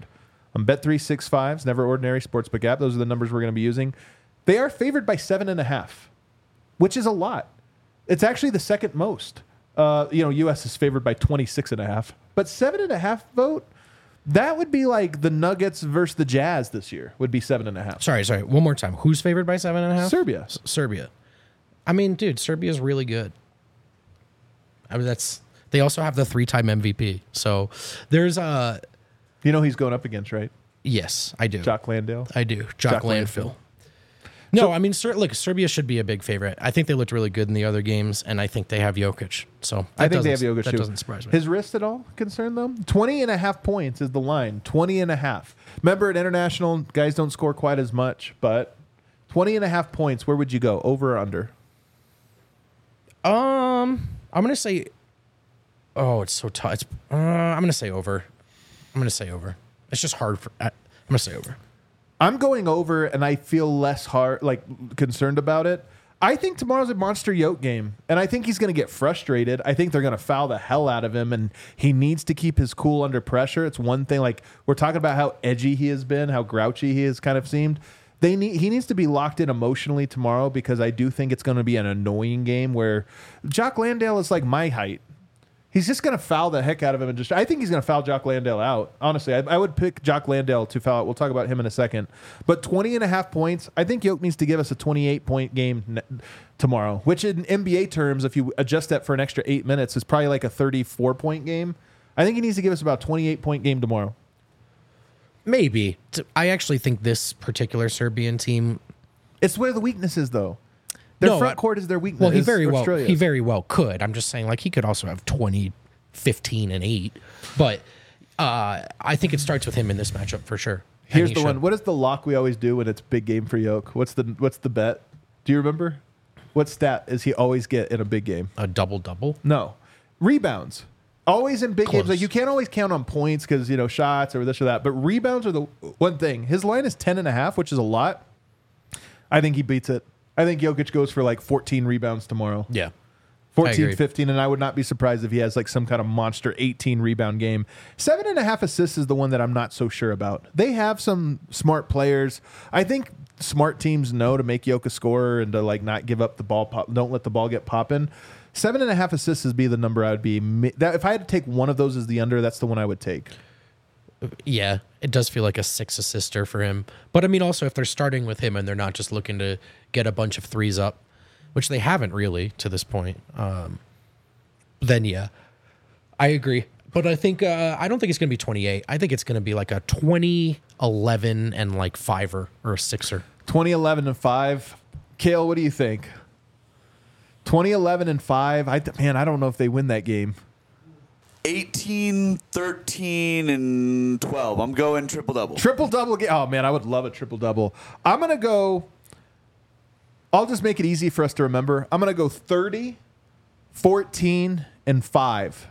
on Bet365's Never Ordinary Sportsbook app. Those are the numbers we're going to be using. They are favored by 7.5, which is a lot. It's actually the second most. U.S. is favored by 26.5, but 7.5 vote. That would be like the Nuggets versus the Jazz this year. Would be 7.5. Sorry. One more time. Who's favored by 7.5? Serbia. Serbia. I mean, dude, Serbia's really good. I mean, they also have the 3-time MVP. So there's a. You know who he's going up against, right? Yes, I do. Jock Landale. I do. Jock Landale. No, I mean, look, Serbia should be a big favorite. I think they looked really good in the other games, and I think they have Jokic. So I think they have Jokic that too. doesn't surprise me. His wrist at all concern them? 20.5 points is the line. 20.5. Remember, at international, guys don't score quite as much, but 20.5 points. Where would you go? Over or under? I'm gonna say. Oh, it's so tough. I'm gonna say over. It's just hard for. I'm gonna say over. I'm going over, and I feel less concerned about it. I think tomorrow's a monster Yoke game, and I think he's going to get frustrated. I think they're going to foul the hell out of him, and he needs to keep his cool under pressure. It's one thing, like we're talking about how edgy he has been, how grouchy he has kind of seemed. He needs to be locked in emotionally tomorrow, because I do think it's going to be an annoying game where Jock Landale is like my height. He's just going to foul the heck out of him. I think he's going to foul Jock Landale out. Honestly, I would pick Jock Landale to foul out. We'll talk about him in a second. But 20.5 points, I think Yoke needs to give us a 28-point game tomorrow, which in NBA terms, if you adjust that for an extra 8 minutes, is probably like a 34-point game. I think he needs to give us about a 28-point game tomorrow. Maybe. I actually think this particular Serbian team... It's where the weakness is, though. Their front court is their weakness. Well, he very well could. I'm just saying, like, he could also have 20, 15, and 8. But I think it starts with him in this matchup for sure. Here's the one. What is the lock we always do when it's big game for Yoke? What's the bet? Do you remember? What stat does he always get in a big game? A double-double? No. Rebounds. Always in big Close. games. Like, you can't always count on points because, shots or this or that. But rebounds are the one thing. His line is 10.5, which is a lot. I think he beats it. I think Jokic goes for like 14 rebounds tomorrow. Yeah. 14, 15, and I would not be surprised if he has like some kind of monster 18 rebound game. 7.5 assists is the one that I'm not so sure about. They have some smart players. I think smart teams know to make Jokic a scorer and to like not give up the ball. Don't let the ball get popping. 7.5 assists would be the number I would be. If I had to take one of those as the under, that's the one I would take. Yeah, it does feel like a 6-assister for him. But I mean, also, if they're starting with him and they're not just looking to get a bunch of threes up, which they haven't really to this point, then yeah, I agree. But I think I don't think it's going to be 28. I think it's going to be like a 20-11 and like 5er or a 6er. 20-11 and 5. Kale, what do you think? 20-11 and 5. I don't know if they win that game. 18, 13, and 12. I'm going triple-double. Triple-double game. Oh, man, I would love a triple-double. I'm going to go... I'll just make it easy for us to remember. I'm going to go 30, 14, and 5.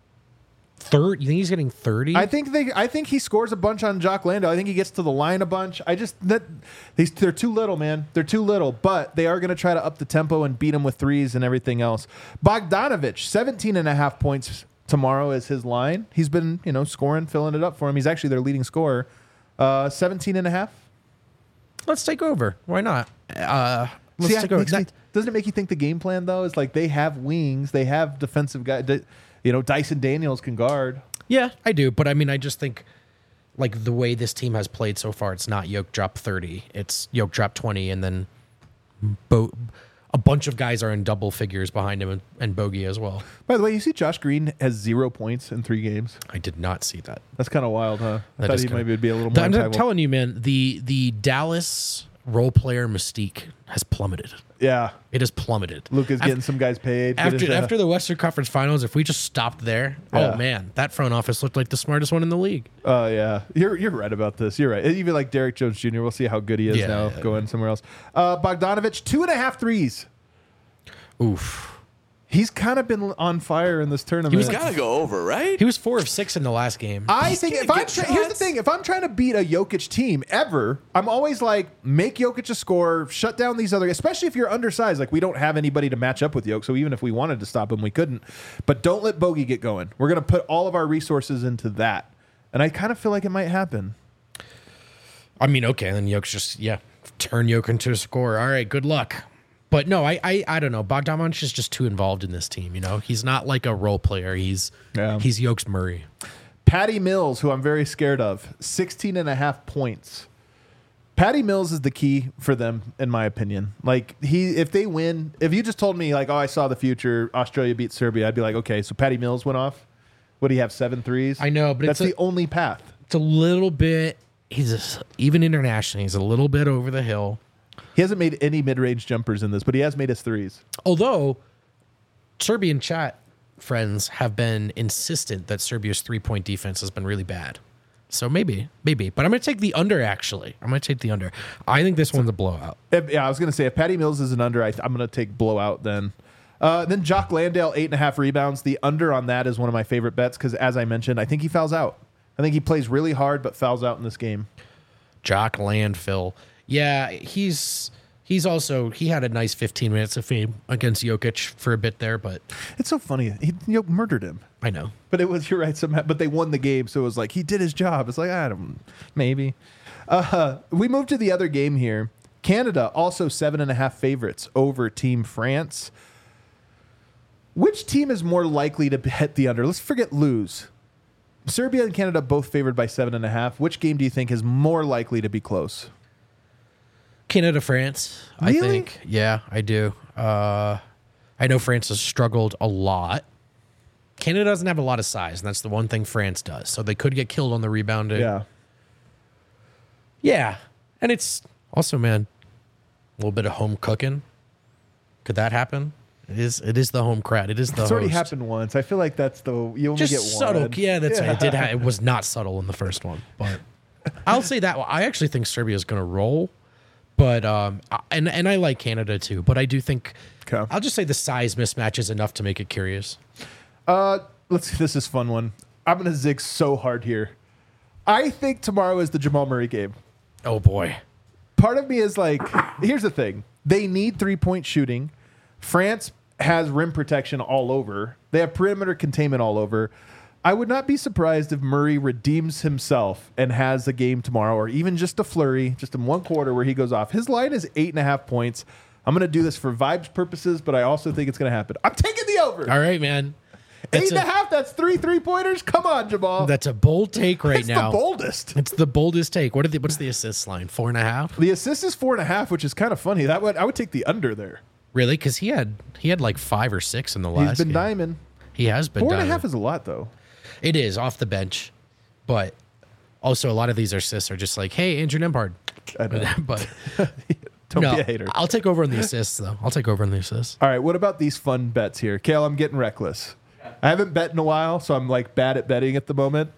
You think he's getting 30? I think he scores a bunch on Jock Landale. I think he gets to the line a bunch. They're too little, man. They're too little, but they are going to try to up the tempo and beat him with threes and everything else. Bogdanovic, 17.5 points tomorrow is his line. He's been, scoring, filling it up for him. He's actually their leading scorer. 17.5. Let's take over. Why not? Doesn't it make you think the game plan, though, is like they have wings, they have defensive guys. Dyson Daniels can guard. Yeah, I do. But I mean, I just think like the way this team has played so far, it's not Yoke drop 30. It's Yoke drop 20, and then a bunch of guys are in double figures behind him and Bogey as well. By the way, you see Josh Green has 0 points in 3 games. I did not see that. That's kind of wild, huh? I thought he maybe would be a little more. I'm telling you, man, the Dallas role player mystique has plummeted. Yeah. It has plummeted. Luka's getting some guys paid. After the Western Conference Finals, if we just stopped there, oh man, that front office looked like the smartest one in the league. Oh, yeah. You're right about this. You're right. Even like Derek Jones Jr., we'll see how good he is going somewhere else. Bogdanovic, 2.5 threes. Oof. He's kind of been on fire in this tournament. He's got to go over, right? He was 4 of 6 in the last game. I think here's the thing. If I'm trying to beat a Jokic team ever, I'm always like, make Jokic a scorer, shut down these other guys, especially if you're undersized. Like, we don't have anybody to match up with Jokic, so even if we wanted to stop him, we couldn't. But don't let Bogey get going. We're going to put all of our resources into that. And I kind of feel like it might happen. I mean, okay, then Jokic just turn Jokic into a scorer. All right, good luck. But no, I don't know. Bogdanovic is just too involved in this team. You know, he's not like a role player. He's Jokic Murray. Patty Mills, who I'm very scared of, 16.5 points. Patty Mills is the key for them, in my opinion. Like if they win, if you just told me like, oh, I saw the future, Australia beat Serbia, I'd be like, okay, so Patty Mills went off. What do you have? 7 threes? I know, but that's the only path. It's a little bit. Even internationally, he's a little bit over the hill. He hasn't made any mid-range jumpers in this, but he has made his threes. Although Serbian chat friends have been insistent that Serbia's 3-point defense has been really bad. So maybe. But I'm going to take the under, actually. I'm going to take the under. I think this one's a blowout. Yeah, I was going to say, if Patty Mills is an under, I'm going to take blowout then. Then Jock Landale, 8.5 rebounds. The under on that is one of my favorite bets because, as I mentioned, I think he fouls out. I think he plays really hard but fouls out in this game. Jock Landale. Yeah, he had a nice 15 minutes of fame against Jokic for a bit there, but it's so funny. He murdered him. I know. But you're right, somehow, but they won the game, so it was like he did his job. It's like, maybe. We move to the other game here. Canada, also 7.5 favorites over Team France. Which team is more likely to hit the under? Let's forget lose. Serbia and Canada both favored by 7.5. Which game do you think is more likely to be close? Canada, France. Really? I think. Yeah, I do. I know France has struggled a lot. Canada doesn't have a lot of size, and that's the one thing France does. So they could get killed on the rebounding. Yeah. Yeah. And it's also, man, a little bit of home cooking. Could that happen? It is the home crowd. It is the It's already happened once. I feel like that's you only just get subtle. one. Yeah, that's right. It was not subtle in the first one, but I'll say that. I actually think Serbia is going to roll, but and I like Canada too. But I do think I'll just say the size mismatch is enough to make it curious. Let's see. This is a fun one. I'm going to zig so hard here. I think tomorrow is the Jamal Murray game. Oh boy. Part of me is like, here's the thing. They need 3-point shooting. France has rim protection all over. They have perimeter containment all over. I would not be surprised if Murray redeems himself and has a game tomorrow, or even just a flurry, just in one quarter where he goes off. His line is 8.5 points. I'm going to do this for vibes purposes, but I also think it's going to happen. I'm taking the over. All right, man. 8.5. That's 3 3-pointers. Come on, Jamal. That's a bold take right now. It's the boldest. It's the boldest take. What's the assist line? 4.5. The assist is 4.5, which is kind of funny. I would take the under there. Really? Because he had like 5 or 6 in the last. He's been diamond. He has been. 4.5 is a lot, though. It is off the bench, but also a lot of these assists are just like, hey, Andrew Nembhard. I know. But don't be a hater. I'll take over on the assists, though. I'll take over on the assists. All right. What about these fun bets here, Kale? I'm getting reckless. I haven't bet in a while, so I'm like bad at betting at the moment.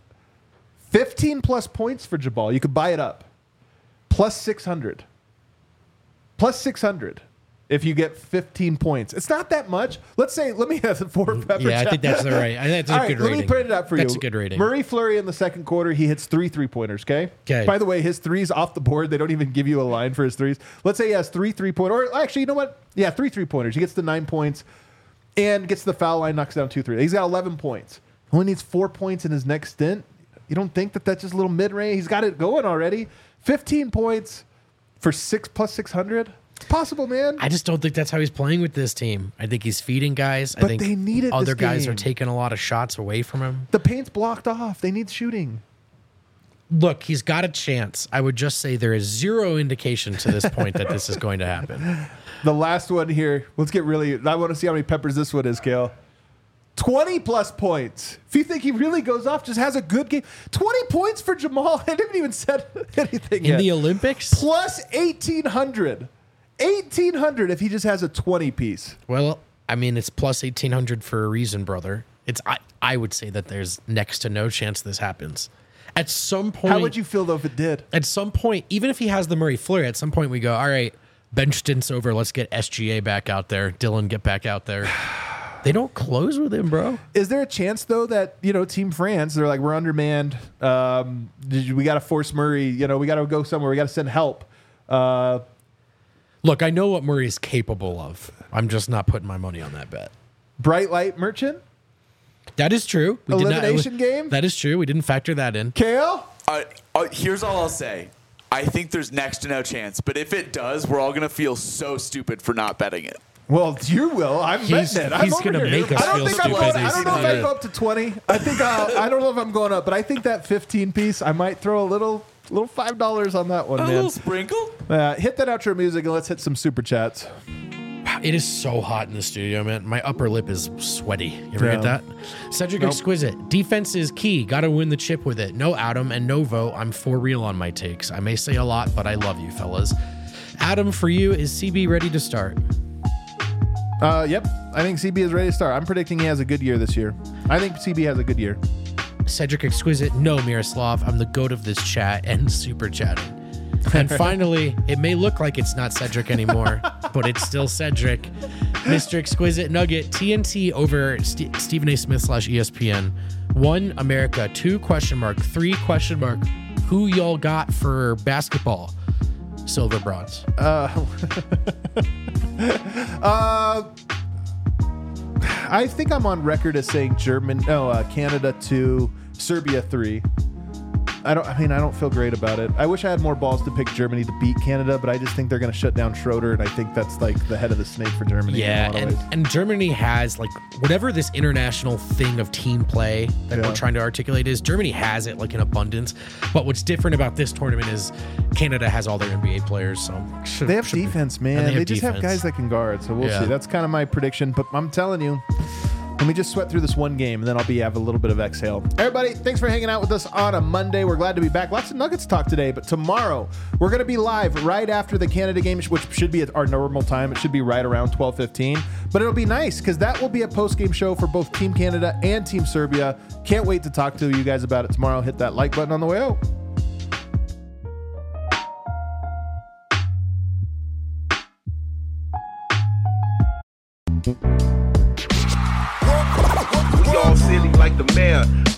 15 plus points for Jabal. You could buy it up. Plus 600. Plus 600. If you get 15 points. It's not that much. Let me have the 4 pepper. Yeah, I think that's the right. I think that's a good rating. Let me put it up for you. That's a good rating. Murray Fleury in the second quarter, he hits 3 3-pointers, okay? Okay. By the way, his threes off the board, they don't even give you a line for his threes. Let's say he has 3 3-pointers. Or actually, you know what? Yeah, 3 3-pointers. He gets the 9 points and gets the foul line, knocks down 2 3. He's got 11 points. Only needs 4 points in his next stint. You don't think that's just a little mid-range? He's got it going already. 15 points for 6 plus 600. It's possible, man. I just don't think that's how he's playing with this team. I think he's feeding guys. But I think they need it. Other this guys game. are taking a lot of shots away from him. The paint's blocked off. They need shooting. Look, he's got a chance. I would just say there is zero indication to this point that this is going to happen. The last one here. Let's get really. I want to see how many peppers this one is, Kale. 20 plus points. If you think he really goes off, just has a good game. 20 points for Jamal. I didn't even said anything in yet. the Olympics. Plus 1,800. 1,800 if he just has a 20 piece. Well, I mean, it's plus 1,800 for a reason, brother. I would say that there's next to no chance this happens. At some point, how would you feel though if it did? At some point, even if he has the Murray Fleury, at some point we go, all right, bench stints over. Let's get SGA back out there. Dylan, get back out there. They don't close with him, bro. Is there a chance though that Team France, they're like, we're undermanned. We got to force Murray. We got to go somewhere. We got to send help. Look, I know what Murray's capable of. I'm just not putting my money on that bet. Bright light merchant. That is true. Elimination game. That is true. We didn't factor that in. Kale. Here's all I'll say. I think there's next to no chance. But if it does, we're all going to feel so stupid for not betting it. Well, you will. I'm betting it. He's going to make us feel stupid. I don't know if I go up to 20. I don't know if I'm going up, but I think that 15 piece, I might throw a little $5 on that one, man. A little sprinkle? Hit that outro music and let's hit some super chats. It is so hot in the studio, man. My upper lip is sweaty. You ever get that? Cedric Exquisite. Defense is key. Got to win the chip with it. No Adam and no vote. I'm for real on my takes. I may say a lot, but I love you, fellas. Adam, for you, is CB ready to start? Yep. I think CB is ready to start. I'm predicting he has a good year this year. I think CB has a good year. Cedric Exquisite. No, Miroslav. I'm the goat of this chat and super chatting. And finally, it may look like it's not Cedric anymore, but it's still Cedric. Mr. Exquisite Nugget, TNT over Stephen A. Smith / ESPN. 1, America. 2, ? 3, ? Who y'all got for basketball? Silver, bronze. I think I'm on record as saying Canada 2, Serbia 3. I don't feel great about it. I wish I had more balls to pick Germany to beat Canada, but I just think they're going to shut down Schroeder, and I think that's like the head of the snake for Germany. Yeah, and Germany has like whatever this international thing of team play that we're trying to articulate is. Germany has it like in abundance, but what's different about this tournament is Canada has all their NBA players, so they have defense, man. They just have guys that can guard, so we'll see. That's kind of my prediction, but I'm telling you. Let me just sweat through this one game, and then I'll have a little bit of exhale. Everybody, thanks for hanging out with us on a Monday. We're glad to be back. Lots of Nuggets talk today, but tomorrow we're going to be live right after the Canada game, which should be at our normal time. It should be right around 12:15, but it'll be nice because that will be a post-game show for both Team Canada and Team Serbia. Can't wait to talk to you guys about it tomorrow. Hit that like button on the way out. Y'all silly like the mayor.